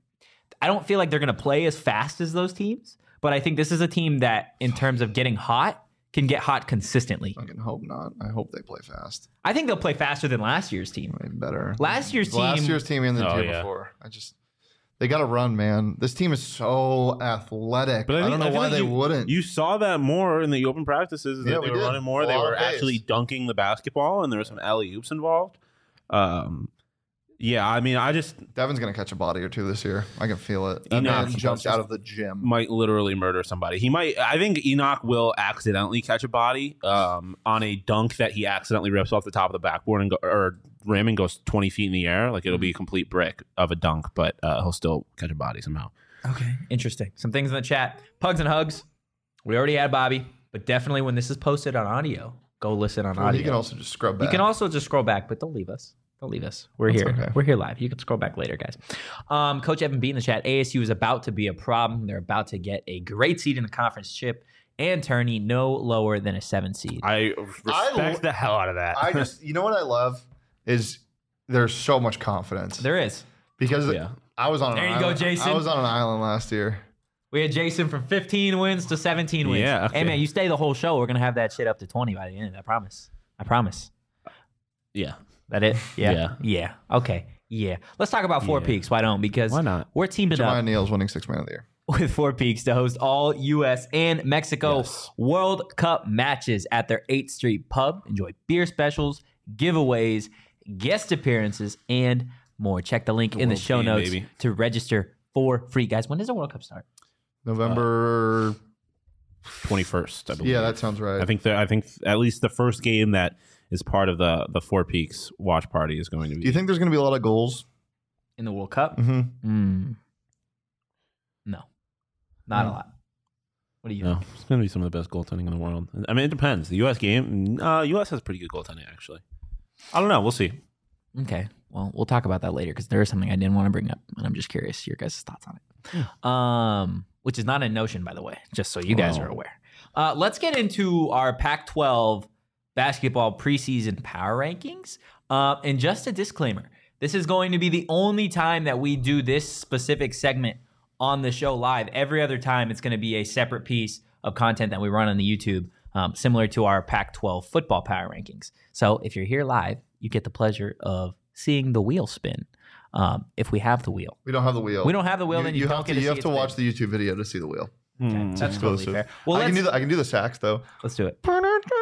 I don't feel like they're going to play as fast as those teams, but I think this is a team that, in terms of getting hot, can get hot consistently. I can hope not. I hope they play fast. I think they'll play faster than last year's team. Way better. Last year's team. Last year's team and the Oh, year yeah. before. I just they got to run, man. This team is so athletic. But I, I, think, don't know I feel why like they you, wouldn't. You saw that more in the open practices. That Yeah, they we were did. running more. A They lot were of pace. actually dunking the basketball, and there were some alley oops involved. Um, yeah, I mean, I just Devin's gonna catch a body or two this year. I can feel it. That Enoch man jumps just- out of the gym. might literally murder somebody. He might. I think Enoch will accidentally catch a body um, on a dunk that he accidentally rips off the top of the backboard and go, or rim and goes twenty feet in the air. Like it'll be a complete brick of a dunk, but uh, he'll still catch a body somehow. Okay. Interesting. Some things in the chat. Pugs and hugs. We already had Bobby, but definitely when this is posted on audio, go listen on Well, audio. you can also just scrub back. You can also just scroll back, but don't leave us. Don't leave us. We're That's here. okay. We're here live. You can scroll back later, guys. Um, Coach Evan B in the chat. A S U is about to be a problem. They're about to get a great seed in the conference chip and tourney no lower than a seven seed. I respect I- the hell out of that. I just, you know what I love is there's so much confidence There is. because yeah. I was on. An There you go, island. Jason. I was on an island last year. We had Jason from fifteen wins to seventeen wins. Yeah, okay. Hey, man, you stay the whole show. We're going to have that shit up to twenty by the end. I promise. I promise. Yeah. That it? Yeah. Yeah. Yeah. Okay. Yeah. Let's talk about Four Yeah. Peaks. Why don't? Because Why not? we're teaming up Jemiah Neal's winning six man of the year. with Four Peaks to host all U S and Mexico Yes. World Cup matches at their eighth Street pub. Enjoy beer specials, giveaways, guest appearances, and more. Check the link in the world show game, notes baby. to register for free. Guys, when does the World Cup start? November. twenty-first, I believe. yeah, that sounds right. I think that I think at least the first game that is part of the the Four Peaks watch party is going to be. Do you think there's going to be a lot of goals? In the World Cup? Mm-hmm. Mm. No. Not a Mm. lot. What do you No, think? it's going to be some of the best goaltending in the world. I mean, it depends. The U S game, uh, U S has pretty good goaltending, actually. I don't know. We'll see. Okay. Well, we'll talk about that later because there is something I didn't want to bring up, and I'm just curious your guys' thoughts on it. Um, which is not a notion, by the way, just so you guys Wow. are aware. Uh, let's get into our Pac twelve basketball preseason power rankings. Uh, and just a disclaimer: this is going to be the only time that we do this specific segment on the show live. Every other time, it's going to be a separate piece of content that we run on the YouTube, um, similar to our Pac twelve football power rankings. So if you're here live, you get the pleasure of seeing the wheel spin. Um, if we have the wheel, We don't have the wheel. we don't have the wheel. You, then you, you don't have get to. to You see have it to spin. watch the YouTube video to see the wheel. Okay, Hmm. that's totally exclusive. fair. Well, I can let's, do the. I can do the sax though. let's do it. That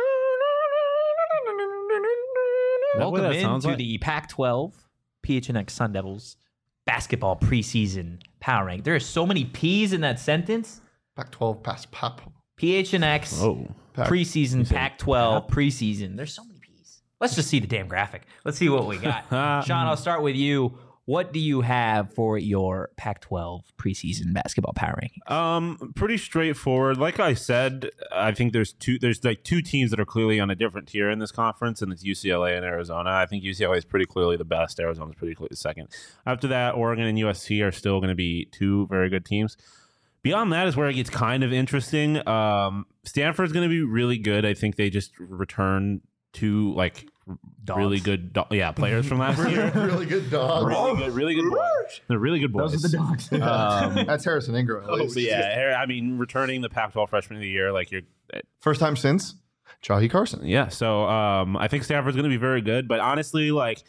what Welcome that sounds into like? the Pac twelve P H N X Sun Devils basketball preseason power rank. There are so many P's in that sentence. Pac twelve pass pop. P H N X Oh. Pac- preseason said Pac twelve preseason. There's so many P's. Let's just see the damn graphic. Let's see what we got. Sean, I'll start with you. What do you have for your Pac twelve preseason basketball power ranking? Um, pretty straightforward. Like I said, I think there's two. There's like two teams that are clearly on a different tier in this conference, and it's U C L A and Arizona. I think U C L A is pretty clearly the best. Arizona's pretty clearly the second. After that, Oregon and U S C are still going to be two very good teams. Beyond that is where it gets kind of interesting. Um, Stanford's going to be really good. I think they just return two like Dogs. really good, do- yeah, players from last year. really good dog. really good, really good boys. They're really good boys. dogs. Um, That's Harrison Ingram. At Oh, least. but yeah, I mean, returning the Pac twelve freshman of the year, like you're, First time since Chahi Carson. yeah. So um, I think Stanford's going to be very good. But honestly, like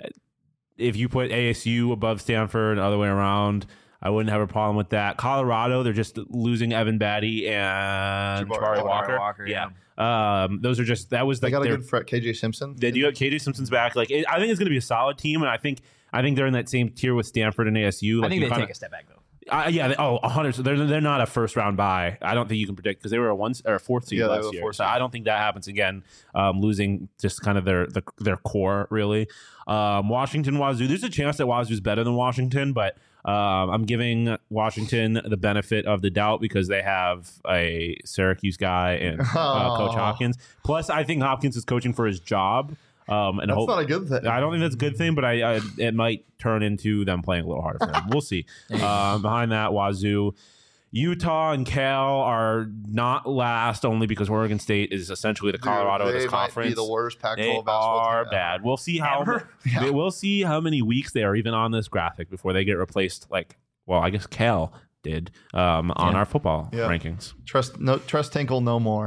if you put A S U above Stanford and the other way around, I wouldn't have a problem with that. Colorado, they're just losing Evan Batty and Jabari Jabari Walker. Walker. Walker, yeah. Um, those are just that was They like got a their, good fret. K J Simpson. they do have K J Simpson's back. Like it, I think it's going to be a solid team, and I think I think they're in that same tier with Stanford and A S U. Like I think you they kinda- take a step back though. Uh, yeah, they, oh, one hundred. So they're they're not a first round bye. I don't think you can predict because they were a one or a fourth seed Yeah, they were last a year. fourth So seed. I don't think that happens again. Um, losing just kind of their the, their core really. Um, Washington, Wazoo. There's a chance that Wazoo's better than Washington, but um, I'm giving Washington the benefit of the doubt because they have a Syracuse guy and uh, Coach Oh. Hopkins. Plus, I think Hopkins is coaching for his job. Um, and That's hope, not a good thing. I don't think that's a good thing, but I, I it might turn into them playing a little harder for them. We'll see. Um, behind that, Wazoo, Utah, and Cal are not last only because Oregon State is essentially the Dude, Colorado of they this might conference. be the worst Pac They twelve basketball are team bad. ever. We'll see how Ever? Yeah. we'll see how many weeks they are even on this graphic before they get replaced. Like, well, I guess Cal did um, on Yeah. our football Yeah. rankings. Trust no trust Tinkle no more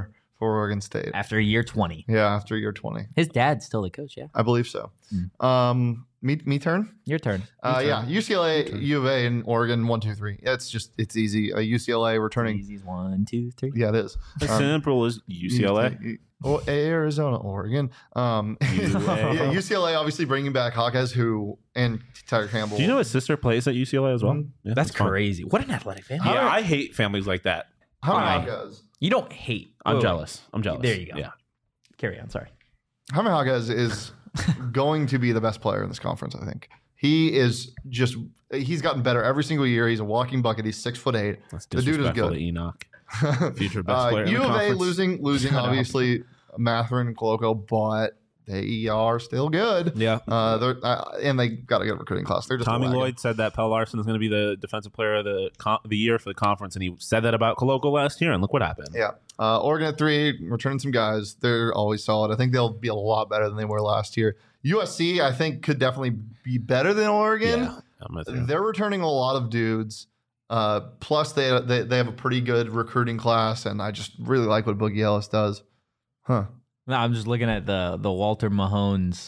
for Oregon State. after year twenty. Yeah, after year twenty. His dad's still the coach, yeah. I believe so. Mm. Um, me, me turn? Your turn. Uh, turn. yeah, U C L A, turn. U of A, and Oregon, one, two, three. It's just, it's easy. Uh, U C L A returning. Easy's one, two, three. Yeah, it is. As Um, simple as U C L A. Oh, Arizona, Oregon. Um, yeah, U C L A obviously bringing back Hawkes, who and Tyler Campbell. Do you know his sister plays at U C L A as well? Mhm. Yeah, That's fun. crazy. What an athletic family. Yeah, I hate families like that. how Why? many Hawkes? You don't hate. I'm Wait, wait. jealous. I'm jealous. There you go. Yeah. Carry on. Sorry. Jaime Hawkes is going to be the best player in this conference, I think. He is just, he's gotten better every single year. He's a walking bucket. He's six foot eight. That's The dude is disrespectful good. to Enoch. Future best Uh, player in the U of A conference. losing, losing Shut up. obviously, Matherin and Coloco, but they are still good. Yeah. Uh, they're uh, and they got a good recruiting class. They're just Tommy lagging. Lloyd said that Pell Larson is going to be the defensive player of the con- the year for the conference, and he said that about Coloco last year, and look what happened. Yeah. Uh, Oregon at three, returning some guys. They're always solid. I think they'll be a lot better than they were last year. U S C, I think, could definitely be better than Oregon. Yeah, I'm with you. They're returning a lot of dudes. Uh, plus, they, they they have a pretty good recruiting class, and I just really like what Boogie Ellis does. Huh. No, I'm just looking at the the Walter Mahones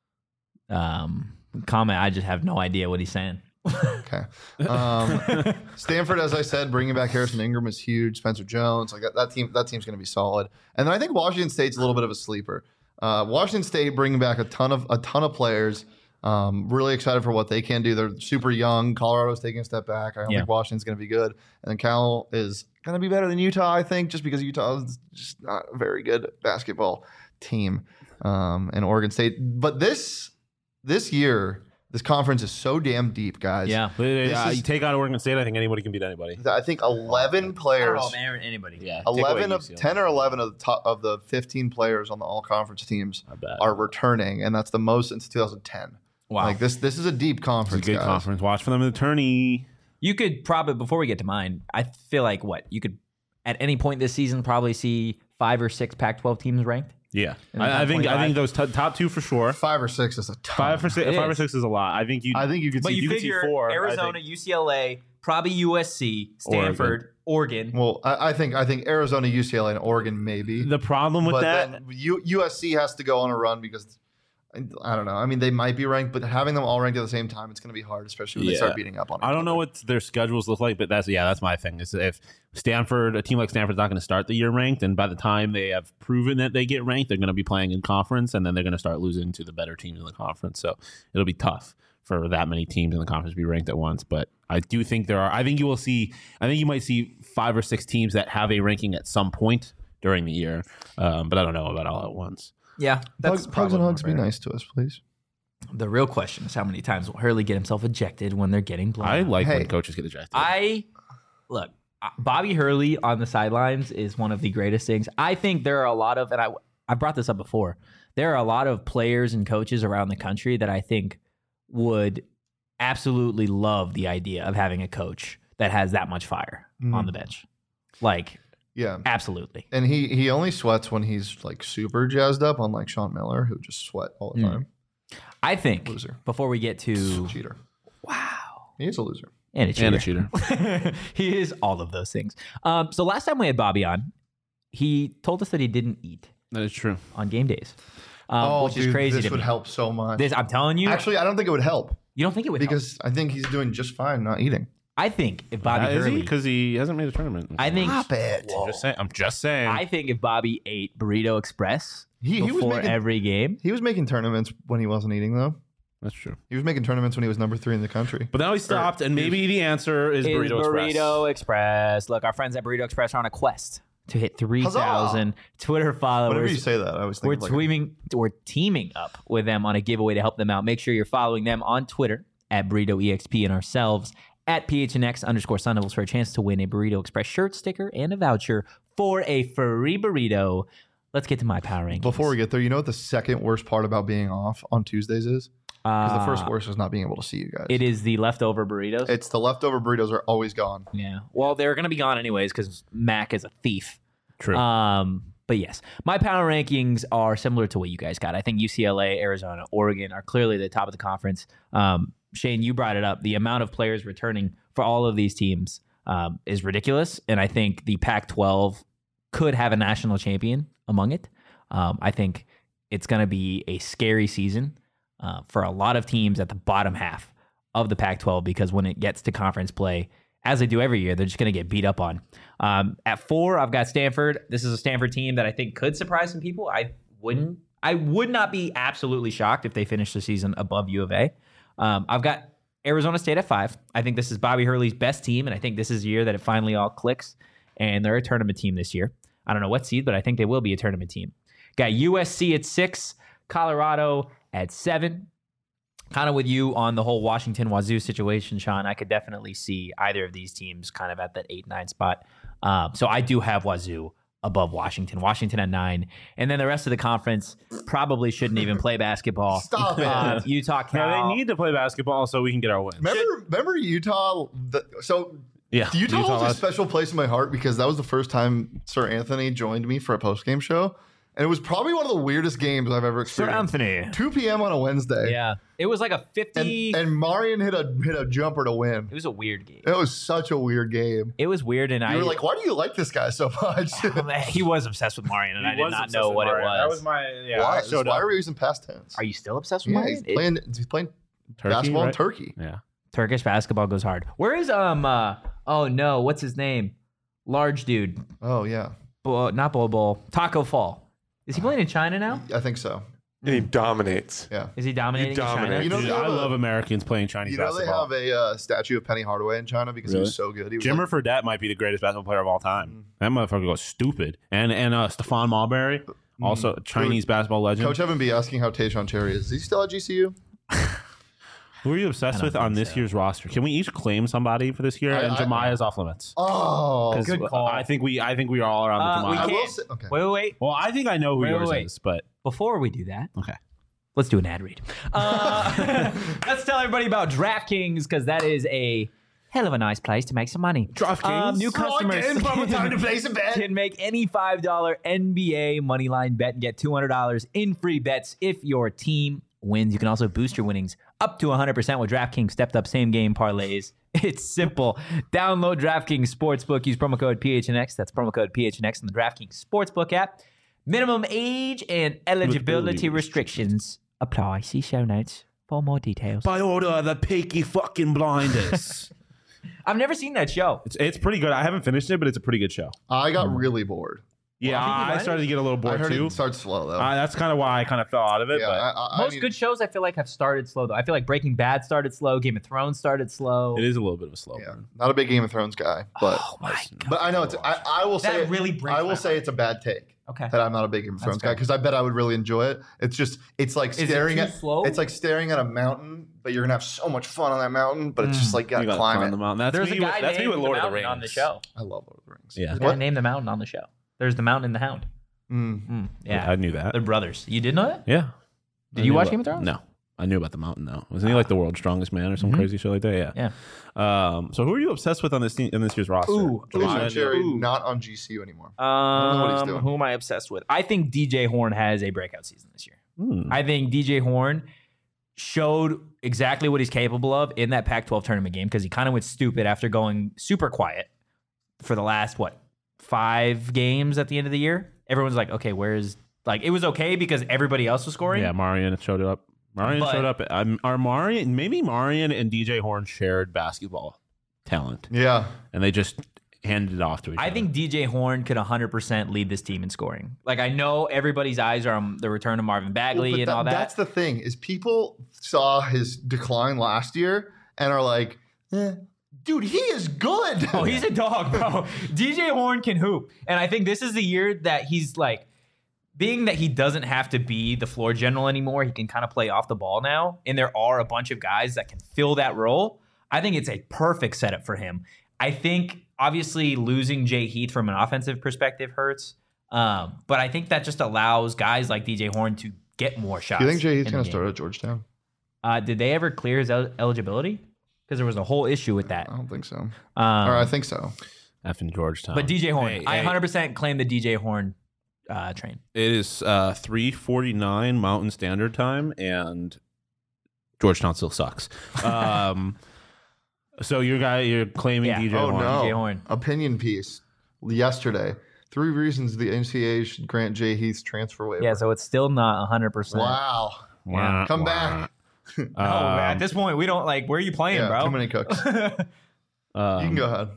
um, comment. I just have no idea what he's saying. Okay. Um, Stanford, as I said, bringing back Harrison Ingram is huge. Spencer Jones, like that, that team. That team's going to be solid. And then I think Washington State's a little bit of a sleeper. Uh, Washington State bringing back a ton of a ton of players. Um, really excited for what they can do. They're super young. Colorado's taking a step back. I don't Yeah. think Washington's going to be good. And then Cal is going to be better than Utah, I think, just because Utah is just not a very good basketball team. Um, and Oregon State, but this this year, this conference is so damn deep, guys. Yeah. But, uh, This is- you take out Oregon State, I think anybody can beat anybody. I think eleven players. man. Anybody. Yeah, eleven of ten or eleven of the top of the fifteen players on the all conference teams I bet. are returning, and that's the most since two thousand ten. Wow. Like this, this is a deep It's a conference. good guys. conference. Watch for them in the tourney. You could probably, before we get to mine, I feel like what? You could, at any point this season, probably see five or six Pac twelve teams ranked. Yeah, In the I, I top think I twenty-five? think those t- top two for sure. Five or six is a ton. Five for six, It five or is. six is a lot. I think you. I think you could But see. you, you could see figure four, I Arizona, think. U C L A, probably U S C, Stanford, Oregon. well, I, I think I think Arizona, U C L A, and Oregon maybe. The problem with but that, then U, USC has to go on a run because I don't know. I mean, they might be ranked, but having them all ranked at the same time, it's going to be hard, especially when they Yeah. start beating up on. I don't know each what their schedules look like, but that's yeah, that's my thing. Is if Stanford, a team like Stanford's not going to start the year ranked, and by the time they have proven that they get ranked, they're going to be playing in conference, and then they're going to start losing to the better teams in the conference. So it'll be tough for that many teams in the conference to be ranked at once. But I do think there are. I think you will see. I think you might see five or six teams that have a ranking at some point during the year, um, but I don't know about all at once. Yeah, that's Hugs, hugs and probably hugs. Be fair. nice to us, please. The real question is how many times will Hurley get himself ejected when they're getting blown I out? like Hey. when coaches get ejected. I look, uh, Bobby Hurley on the sidelines is one of the greatest things. I think there are a lot of, and I I brought this up before. There are a lot of players and coaches around the country that I think would absolutely love the idea of having a coach that has that much fire Mhm. on the bench. Like, Yeah. absolutely. And he he only sweats when he's like super jazzed up, unlike Sean Miller, who just sweat all the Mm. time. I think Loser. before we get to Cheater. wow, He is a loser. and a cheater. and a cheater. He is all of those things. Um, so last time we had Bobby on, he told us that he didn't eat That is true. on game days, um, oh, which dude, is crazy this to would me. help so much. This, I'm telling you, Actually, I don't think it would help you don't think it would help. because I think he's doing just fine not eating. I think if Bobby Uh, is he? Hurley, Because he hasn't made a tournament. I think, it. I'm just saying. I'm just saying. I think if Bobby ate Burrito Express He, he was before making every game, he was making tournaments when he wasn't eating though. That's true. He was making tournaments when he was number three in the country. But now he stopped, and maybe the answer is is Burrito, Burrito Express. Express. Look, our friends at Burrito Express are on a quest to hit three thousand Twitter followers. Whenever you say that, I was We're thinking like, teaming, we're teaming up with them on a giveaway to help them out. Make sure you're following them on Twitter at Burrito E X P and ourselves at P H N X underscore Sun Devils for a chance to win a Burrito Express shirt, sticker, and a voucher for a free burrito. Let's get to my power rankings. before we get there, you know what the second worst part about being off on Tuesdays is? Because uh, the first worst is not being able to see you guys. it is the leftover burritos. It's the leftover burritos are always gone. yeah. Well, they're going to be gone anyways because Mac is a thief. True. Um, but yes, my power rankings are similar to what you guys got. I think U C L A, Arizona, Oregon are clearly the top of the conference. Um, Shane, you brought it up. The amount of players returning for all of these teams um, is ridiculous. And I think the Pac twelve could have a national champion among it. Um, I think it's going to be a scary season uh, for a lot of teams at the bottom half of the Pac twelve, because when it gets to conference play, as they do every year, they're just going to get beat up on. Um, at four, I've got Stanford. This is a Stanford team that I think could surprise some people. I wouldn't. I would not be absolutely shocked if they finish the season above U of A. Um, I've got Arizona State at five. I think this is Bobby Hurley's best team, and I think this is the year that it finally all clicks, and they're a tournament team this year. I don't know what seed, but I think they will be a tournament team. Got U S C at six, Colorado at seven. Kind of with you on the whole Washington Wazoo situation, Sean. I could definitely see either of these teams kind of at that eight, nine spot. Um, so I do have Wazoo above Washington. Washington at nine. And then the rest of the conference probably shouldn't even play basketball. Stop it. Uh, Utah, Cal. Yeah, they need to play basketball so we can get our wins. Remember, remember Utah? The, so Yeah, Utah, Utah holds a last- special place in my heart because that was the first time Sir Anthony joined me for a post-game show. And it was probably one of the weirdest games I've ever Sir experienced. Anthony. two p.m. on a Wednesday. Yeah. It was like a And, fifty. and Marion hit a hit a jumper to win. it was a weird game. It was such a weird game. It was weird, and You I were like, why do you like this guy so much? he was obsessed with Marion, and He I did was not obsessed know with what Mario. it was. That was my yeah. why? I showed why up. are we using past tense? Are you still obsessed with yeah, Marion? he's playing. He's playing Turkey, basketball in right? Turkey. Yeah. Turkish basketball goes hard. Where is um? Uh, oh no, what's his name? Large dude, Oh yeah, Bo, not Bol Bol. Taco Fall. Is he playing in China now? I think so. And he dominates. Yeah. Is he dominating in China? dominate. You know, Dude, they have I a- love Americans playing Chinese You know they basketball. have a uh, statue of Penny Hardaway in China because he Really? was so good. He was Jimmer like, Fredette might be the greatest basketball player of all time. Mm. That motherfucker goes stupid. And and uh, Stephon Marbury, also a Chinese basketball legend. Coach Evan B asking how Tayshaun Cherry is. Is he still at G C U? Who are you obsessed with on this year's roster? Can we each claim somebody for this year? I- and I- Jemiah's off limits. Oh, 'Cause good call. I think we I think we are all around Uh, the we I Jemiah. will can't. say, okay. Wait, wait, wait. Well, I think I know who Wait, yours wait, wait. is, but Before we do that, okay. let's do an ad read. Uh, let's tell everybody about DraftKings, because that is a hell of a nice place to make some money. DraftKings? Um, new customers time to place a bet. can make any five dollar N B A moneyline bet and get two hundred dollars in free bets if your team wins. You can also boost your winnings up to one hundred percent with DraftKings stepped up same game parlays. It's simple. Download DraftKings Sportsbook. Use promo code P H N X. That's promo code P H N X in the DraftKings Sportsbook app. Minimum age and eligibility restrictions apply. See show notes for more details. By order of the Peaky fucking Blinders. I've never seen that show. it's it's pretty good. I haven't finished it, but it's a pretty good show. I got really bored. Yeah, Peaky I Blinders? started to get a little I bored heard too. it starts slow though. Uh, that's kind of why I kind of fell out of it. yeah, but I, I, I Most mean, good shows I feel like have started slow though. I feel like Breaking Bad started slow, Game of Thrones started slow. it is a little bit of a slow Yeah, burn. not a big Game of Thrones guy, but Oh my god. but I know it's. I, I will say That it- really breaks I my will say heart. it's a bad take. Okay. That I'm not a big Game of That's Thrones guy fair. because I bet I would really enjoy it. It's just it's like Is it staring too at slow? it's like staring at a mountain, but you're gonna have so much fun on that mountain. But it's Mm. just like you You gotta gotta climb climb it. the mountain. That's There's me a guy with, that's me named with Lord the of the Mountain Rings on the show. I love Lord of the Rings. Yeah. There's a guy What? named the Mountain on the show. There's the Mountain and the Hound. Mm. Mm, Yeah, yeah. I knew that. They're brothers. You did know that? Yeah. Did I you knew watch about- Game of Thrones? No. I knew about the mountain though. Wasn't he like the world's strongest man or some Mhm. crazy shit like that? Yeah. Yeah. Um, so who are you obsessed with on this team, in this year's roster? Ooh, Tayshaun Jemiah, Cherry Ooh. not on G C U anymore. know what he's Um, doing. who am I obsessed with? I think D J Horn has a breakout season this year. Hmm. I think D J Horn showed exactly what he's capable of in that Pac twelve tournament game because he kind of went stupid after going super quiet for the last, what, five games at the end of the year. Everyone's like, okay, where's, like, it was okay because everybody else was scoring. Yeah, Marion showed up. Marion But- showed up. Um, are Marion maybe Marion and D J Horn shared basketball talent, Yeah, and they just handed it off to each I other. think D J Horn could one hundred percent lead this team in scoring. Like, I know everybody's eyes are on the return of Marvin Bagley Well, but and that- all that. That's the thing is people saw his decline last year and are like, eh, dude, he is good. Oh, he's a dog, bro. D J Horn can hoop. And I think this is the year that he's like, being that he doesn't have to be the floor general anymore, he can kind of play off the ball now. And there are a bunch of guys that can fill that role. I think it's a perfect setup for him. I think obviously losing Jay Heath from an offensive perspective hurts. Um, but I think that just allows guys like D J Horn to get more shots. You think Jay Heath's in the going game. to start at Georgetown? Uh, did they ever clear his el- eligibility? Because there was a whole issue with that. I don't think so. Um, or I think so. F in Georgetown. But D J Horn, Hey, I hey, one hundred percent claim the D J Horn uh, train. It is uh, three forty-nine Mountain Standard Time, and Georgetown still sucks. Um, so your guy, you're claiming Yeah. D J Oh Horn. no! D J Horn. Opinion piece yesterday. Three reasons the N C A A should grant Jay Heath's transfer waiver. Yeah, so it's still not one hundred percent. Wow. Wah, Come wah. back. No, Um, at this point, we don't like. Where are you playing, Yeah, bro? too many cooks. You um, can go ahead.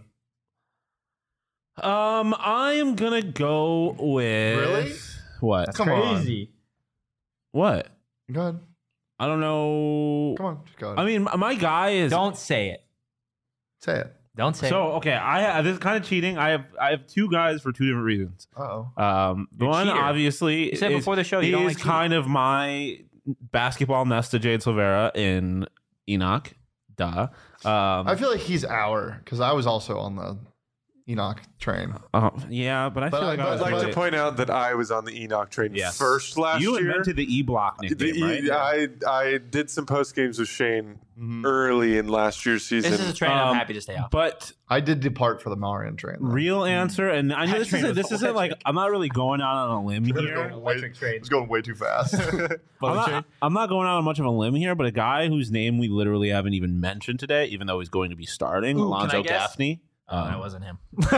Um, I am gonna go with Really? what? That's Come on. crazy. What? Go ahead. I don't know. Come on. Just go ahead. I mean, my guy is Don't say it. Say it. Don't say so it. okay. I this is kind of cheating. I have I have two guys for two different reasons. Uh-oh. Um, the You're a one cheater. obviously You said is, before the show you he don't is like cheating. kind of my basketball nest to Jade Silvera in Enoch. Duh. Um, I feel like he's our, because I was also on the Enoch train. uh, yeah, but I But feel I- like but I I'd was like But- to point out that I was on the Enoch train Yes. first last you year. invented the E Block The nickname, E- right? I I did some post games with Shane Mhm. early in last year's season. This is a train Um, I'm happy to stay off. But I did depart for the Marion train. though. real answer, and I know That this train isn't was this isn't like electric. I'm not really going out on a limb It's here. going way- It's going way too fast. I'm not, I'm not going out on much of a limb here, but a guy whose name we literally haven't even mentioned today, even though he's going to be starting, Ooh, can I Alonzo guess? Gaffney. Oh, Um, that wasn't him.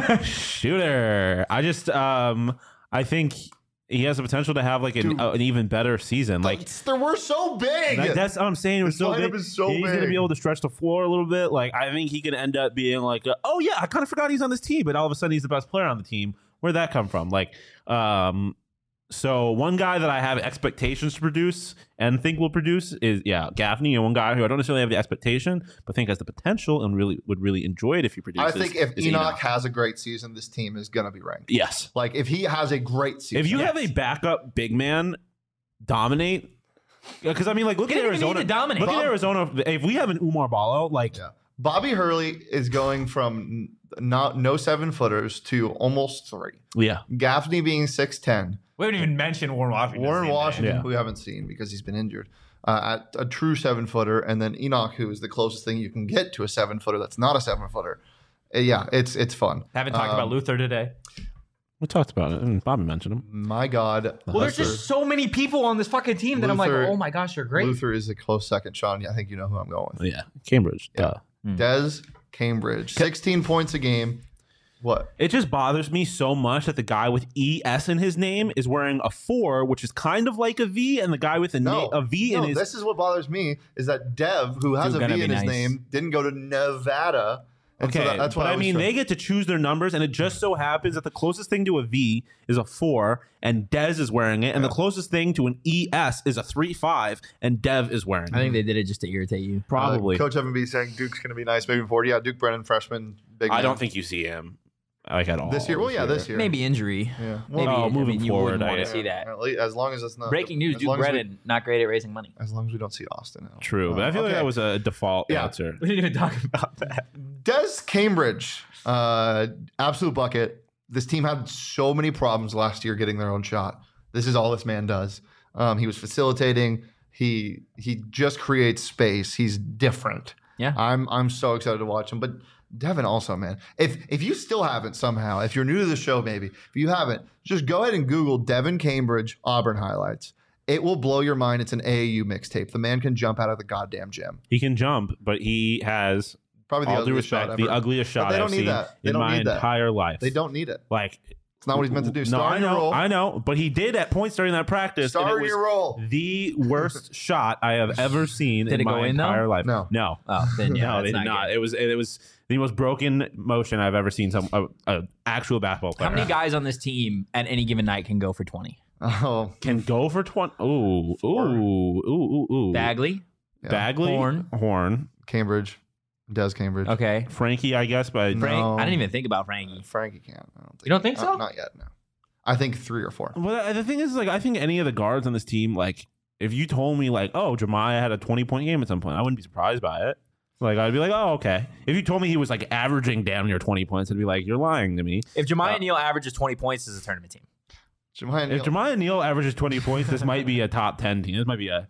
Shooter. I just um I think he has the potential to have like an, Dude. uh, an even better season. Like Like, we're so big. that- that's what I'm saying. It was His so lineup big. is so he's gonna big. be able to stretch the floor a little bit. Like I think he can end up being like, a, oh yeah, I kind of forgot he's on this team, but all of a sudden he's the best player on the team. Where'd that come from? Like, um, so one guy that I have expectations to produce and think will produce is yeah, Gaffney, and one guy who I don't necessarily have the expectation, but think has the potential and really would really enjoy it if he I produces. think if is Enoch, has a great season, this team is going to be ranked. yes. Like, if he has a great season. If you Yes. have a backup big man dominate, because I mean, like, look You at didn't even Arizona. need to dominate. Look Bob- at Arizona. If we have an Umar Ballo, like, Yeah. Bobby Hurley is going from not no seven footers to almost three. yeah, Gaffney being six ten. We haven't even mentioned Warren Washington. Warren Washington, Yeah. who we haven't seen because he's been injured, uh, at a true seven footer, and then Enoch, who is the closest thing you can get to a seven footer that's not a seven footer. Uh, yeah, it's it's fun. Haven't talked Um, about Luther today. we talked about it, and Bobby mentioned him. My God, Well, there's Luther, just so many people on this fucking team that I'm Luther- like, oh my gosh, you're great. Luther is a close second. Sean, I think you know who I'm going with. Yeah, Cambridge. Yeah. Duh. Des Cambridge, sixteen points a game. What? It just bothers me so much that the guy with E S in his name is wearing a four, which is kind of like a V, and the guy with a, No, na- a V no, in his this is what bothers me is that Dev, who has Dude, a gonna V in be his nice. name, didn't go to Nevada. And Okay, so that- that's what but I, was mean, trying- they get to choose their numbers, and it just so happens that the closest thing to a V is a four, and Dez is wearing it, and the closest thing to an E S is a three five, and Dev is wearing it. I think they did it just to irritate you. Probably. Uh, Coach Evan B saying Duke's going to be nice moving forward. Yeah, Duke Brennan, freshman, big. I man. don't think you see him like at all this year. Well, yeah, this year. Maybe injury. Yeah. Maybe Well, Oh, I moving mean, you forward, wouldn't want I- to see that. at least- as long as it's not Breaking news: as Duke long as we- Brennan not great at raising money. As long as we don't see Austin. Now. True, but Uh, I feel like okay. that was a default Yeah. answer. We didn't even talk about that. Des Cambridge, uh, absolute bucket. This team had so many problems last year getting their own shot. This is all this man does. Um, he was facilitating. He he just creates space. He's different. Yeah. I'm I'm so excited to watch him. But Devin also, man. If if you still haven't somehow, if you're new to the show, maybe if you haven't, just go ahead and Google Devin Cambridge Auburn highlights. It will blow your mind. It's an A A U mixtape. The man can jump out of the goddamn gym. He can jump, but he has Probably the all due ugliest shot respect the ever. ugliest shot they don't I've need seen that. They in don't my need that. entire life. They don't need it. like. It's not what he's meant to do. No, Star I in your know, role. I know, but he did at points during that practice. and Star it in was your role. the worst shot I have ever seen Did in it my go in, though? entire life. No. no, Oh, then yeah, no, that's they did not not. good. It was it was the most broken motion I've ever seen. Some a, a actual basketball player How many guys on this team at any given night can go for twenty? Oh, can go for twenty? Ooh, ooh, ooh, ooh, ooh. Bagley, yeah. Bagley, Horn. Horn, Cambridge, Des Cambridge. okay. Frankie, I guess, but No. Frank, I didn't even think about Frankie. Frankie can't. I don't think. You don't think not, so? Not yet. No. I think three or four. Well, the thing is, like, I think any of the guards on this team, like, if you told me, like, oh, Jemiah had a twenty-point game at some point, I wouldn't be surprised by it. Like, I'd be like, oh, okay. If you told me he was, like, averaging damn near twenty points, I'd be like, you're lying to me. If Jemiah Uh, Neal averages twenty points as a tournament team, Jemiah Neal. If Jemiah Neal averages twenty points, this might be a top ten team. This might be a,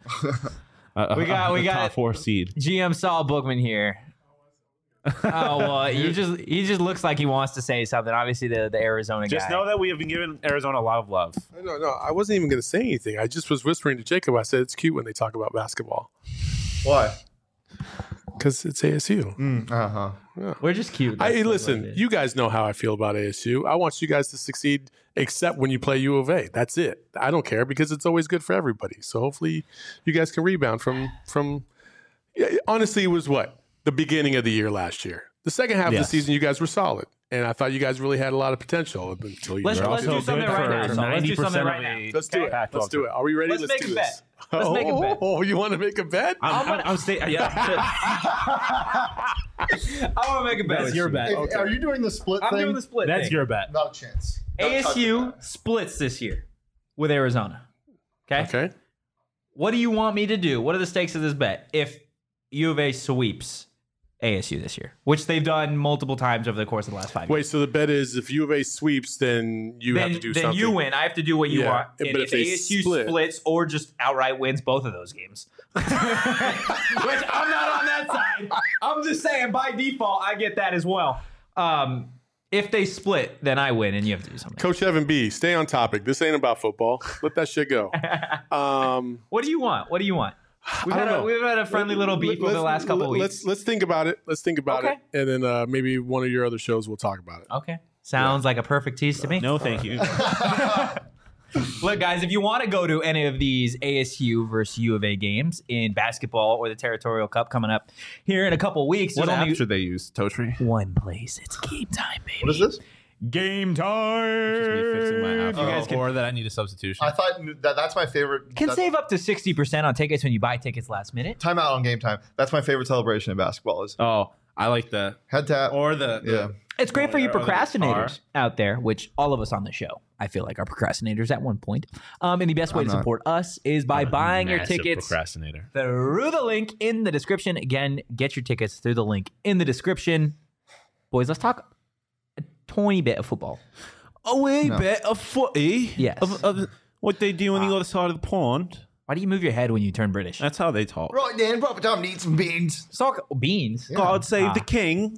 a, We got- a, we a got- top four seed. G M Saul Bookman here. Oh well, you just he just looks like he wants to say something. Obviously, the the Arizona Just guy. know that we have been giving Arizona a lot of love. No, no, I wasn't even going to say anything. I just was whispering to Jacob. I said it's cute when they talk about basketball. Why? Because it's A S U. Mm, uh-huh. Yeah. We're just cute. I, That's what listen, it is. you guys know how I feel about A S U. I want you guys to succeed, except when you play U of A. That's it. I don't care because it's always good for everybody. So hopefully, you guys can rebound from from. Yeah, honestly, it was what the beginning of the year last year. The second half Yes. of the season, you guys were solid, and I thought you guys really had a lot of potential until you. Let's- were let's also do good something for- right now. So let's do ninety something percent right of now. a Let's do it. Pac twelve Let's do it. Are we ready? Let's make do a this. bet. Let's make a bet. Oh, you want to make a bet? I'm, I'm, I'm staying. Yeah. I want to make a bet. That's with your you. bet. If- Okay. Are you doing the split I'm thing? doing the split. That's thing. your bet. Not a chance. Don't touch A S U it. splits this year with Arizona. Okay? Okay. What do you want me to do? What are the stakes of this bet? If U of A sweeps A S U this year, which they've done multiple times over the course of the last five Wait, years. so the bet is if U of A sweeps, then you then, have to do then something. you win. I have to do what you Yeah, want. but And if if, they A S U split- splits or just outright wins both of those games, which I'm not on that side. I'm just saying by default I get that as well. Um, if they split, then I win, and you have to do something. Coach Evan B, stay on topic. This ain't about football. Let that shit go. Um, What do you want? What do you want? We've I had don't a, know. we've had a friendly little beef over the Let's- last couple of weeks. Let's let's think about it. Let's think about Okay. it, and then uh, maybe one of your other shows we'll talk about it. Okay. Sounds like a perfect tease to me. No, thank you. Look, guys, if you want to go to any of these A S U versus U of A games in basketball or the Territorial Cup coming up here in a couple weeks, What there's app only should they use? Totri? one place. It's game time, baby. What is this? Game Just me time. fixing my app. You guys can, or that I need a substitution. I thought that that's my favorite. can that- save up to sixty percent on tickets when you buy tickets last minute. Time out on game time. That's my favorite celebration in basketball. Is oh, I like the head tap. or the, the yeah. It's great for you Or the procrastinators guitar. out there, which all of us on the show, I feel like, are procrastinators at one point. Um, and the best way I'm to not. support us is by I'm a buying your massive tickets procrastinator. through the link in the description. Again, get your tickets through the link in the description. Boys, let's talk a tiny bit of football. A wee No. bit of footy. Yes. Of, of what they do on the other side of the pond. Why do you move your head when you turn British? That's how they talk. Right then, proper time to eat some beans. Let's talk beans. God save Ah. the king.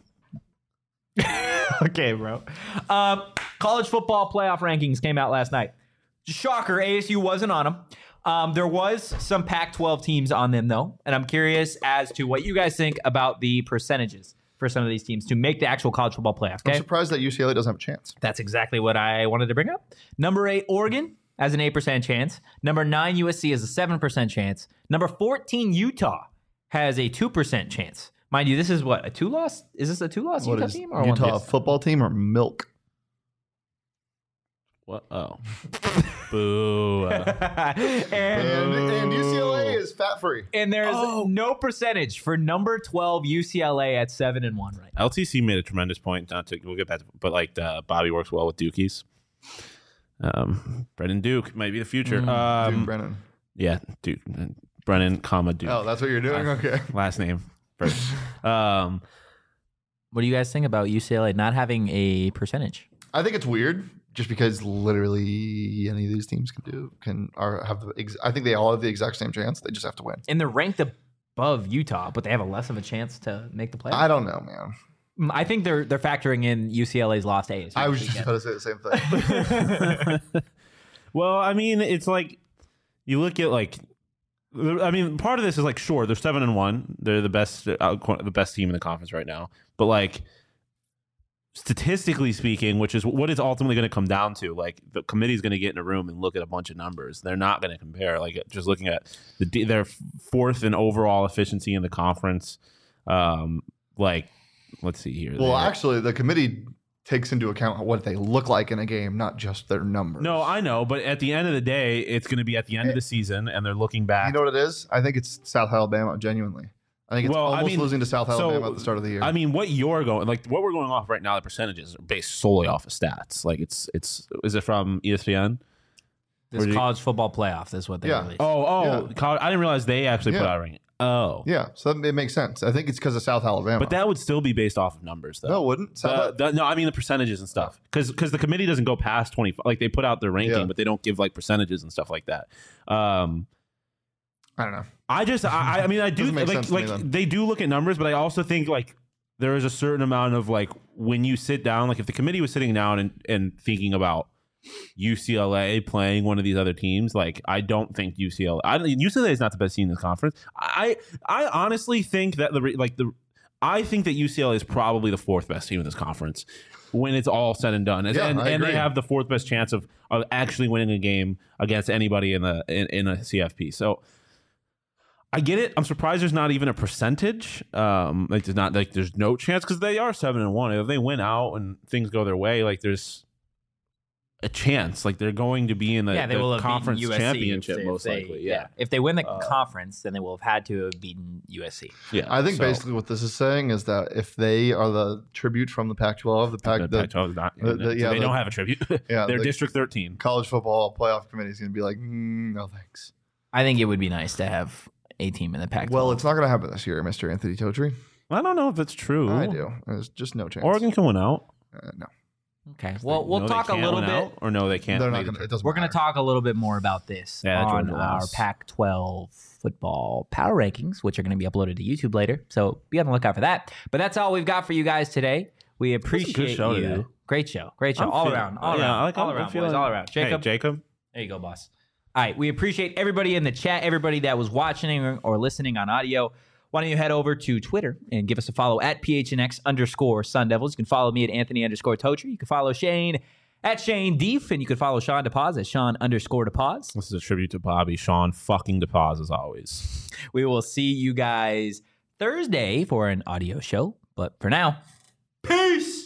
Okay, bro. Um, college football playoff rankings came out last night. Shocker, A S U wasn't on them. Um, there was some Pac twelve teams on them, though, and I'm curious as to what you guys think about the percentages for some of these teams to make the actual college football playoff. I'm Okay, surprised that U C L A doesn't have a chance. that's exactly what I wanted to bring up. Number eight, Oregon has an eight percent chance. Number nine, U S C has a seven percent chance. Number fourteen, Utah has a two percent chance. Mind you, this is what, a two-loss? Is this a two-loss What Utah is team? Or a Utah one-loss? football team or milk? What? Oh. Boo. and, And, and U C L A is fat free. and there's Oh. no percentage for number twelve U C L A at seven and one right now. L T C made a tremendous point. Not to we'll get back to, but like uh, Bobby works well with Dukies. Um, Brennan Duke might be the future. Dude, um, Brennan. yeah, Duke, Brennan, comma Duke. Oh, that's what you're doing. Okay. Last name first. um, What do you guys think about U C L A not having a percentage? I think it's weird, just because literally any of these teams can do can are have the. Ex- I think they all have the exact same chance. They just have to win. And they're ranked above Utah, but they have a less of a chance to make the playoffs. I don't know, man. Mm, I think they're they're factoring in U C L A's lost A S U. I was this just weekend. about to say the same thing. well, I mean, it's like you look at like. I mean, part of this is like, sure, they're seven and one. They're the best, uh, the best team in the conference right now. But like, statistically speaking, which is what it's ultimately going to come down to, like the committee is going to get in a room and look at a bunch of numbers. They're not going to compare. Like just looking at the their fourth in overall efficiency in the conference. Um, like, let's see here. Well, They- actually, the committee takes into account what they look like in a game, not just their numbers. no, I know, but at the end of the day, it's going to be at the end of the season, and they're looking back. You know what it is? I think it's South Alabama. Genuinely, I think it's Well, I almost mean, losing to South so, Alabama at the start of the year. I mean, what you're going like, what we're going off right now, the percentages are based solely off of stats. Like, it's it's is it from E S P N? This Or do you- college football playoff is what they Yeah. released. Oh, oh, Yeah. college, I didn't realize they actually put Yeah. out a ranking. Oh, yeah, so that, it makes sense. I think it's because of South Alabama. but that would still be based off of numbers, though. no, it wouldn't. South Uh, the- no, I mean the percentages and stuff, because because the committee doesn't go past twenty. Like they put out their ranking, Yeah. but they don't give like percentages and stuff like that. Um, I don't know. I just, I, I mean, I do Doesn't make like sense to me like then. they do look at numbers, but I also think like there is a certain amount of like when you sit down, like if the committee was sitting down and and thinking about U C L A playing one of these other teams. Like, I don't think U C L A. I, U C L A is not the best team in this conference. I I honestly think that the like the I think that U C L A is probably the fourth best team in this conference when it's all said and done. And, Yeah, and, I and they agree. have the fourth best chance of, of actually winning a game against anybody in the in, in a C F P. So I get it. I'm surprised there's not even a percentage. Um, like there's not like there's no chance because they are seven and one. If they win out and things go their way, like there's a chance. Like they're going to be in the, yeah, they the will have conference beaten U S C championship if they, most if they- likely. Yeah. If they win the Uh, conference, then they will have had to have beaten U S C. Yeah. I think So, basically what this is saying is that if they are the tribute from the Pac twelve, the Pac, the the, Pac twelve is not, the- the- yeah, they the- don't have a tribute. yeah, They're the District thirteen. college football playoff committee is going to be like, mm, no thanks. I think it would be nice to have a team in the Pac twelve. Well, it's not going to happen this year, Mister Anthony Totri. I don't know if it's true. I do. There's just no chance. Oregon can win out. Uh, no, okay. Well, we'll No, they talk a can't little win bit. out, or no, they can't. they're not make going to. it. It doesn't. We're going to matter. talk a little bit more about this Yeah, that on Georgia our loss. Pac twelve football power rankings, which are going to be uploaded to YouTube later. So be on the lookout for that. But that's all we've got for you guys today. We appreciate show you. today. Great show. Great show. I'm all feeling- around. All yeah, around. I like- all I'm around, feeling- boys. All around. Jacob. Hey, Jacob. There you go, boss. All right. We appreciate everybody in the chat, everybody that was watching or, or listening on audio. Why don't you head over to Twitter and give us a follow at P H N X underscore Sun Devils. You can follow me at Anthony underscore Totri. You can follow Shane at Shane Deef, and you can follow Sean DePaz at Sean underscore DePaz. This is a tribute to Bobby. Sean fucking DePaz as always. We will see you guys Thursday for an audio show. But for now, peace.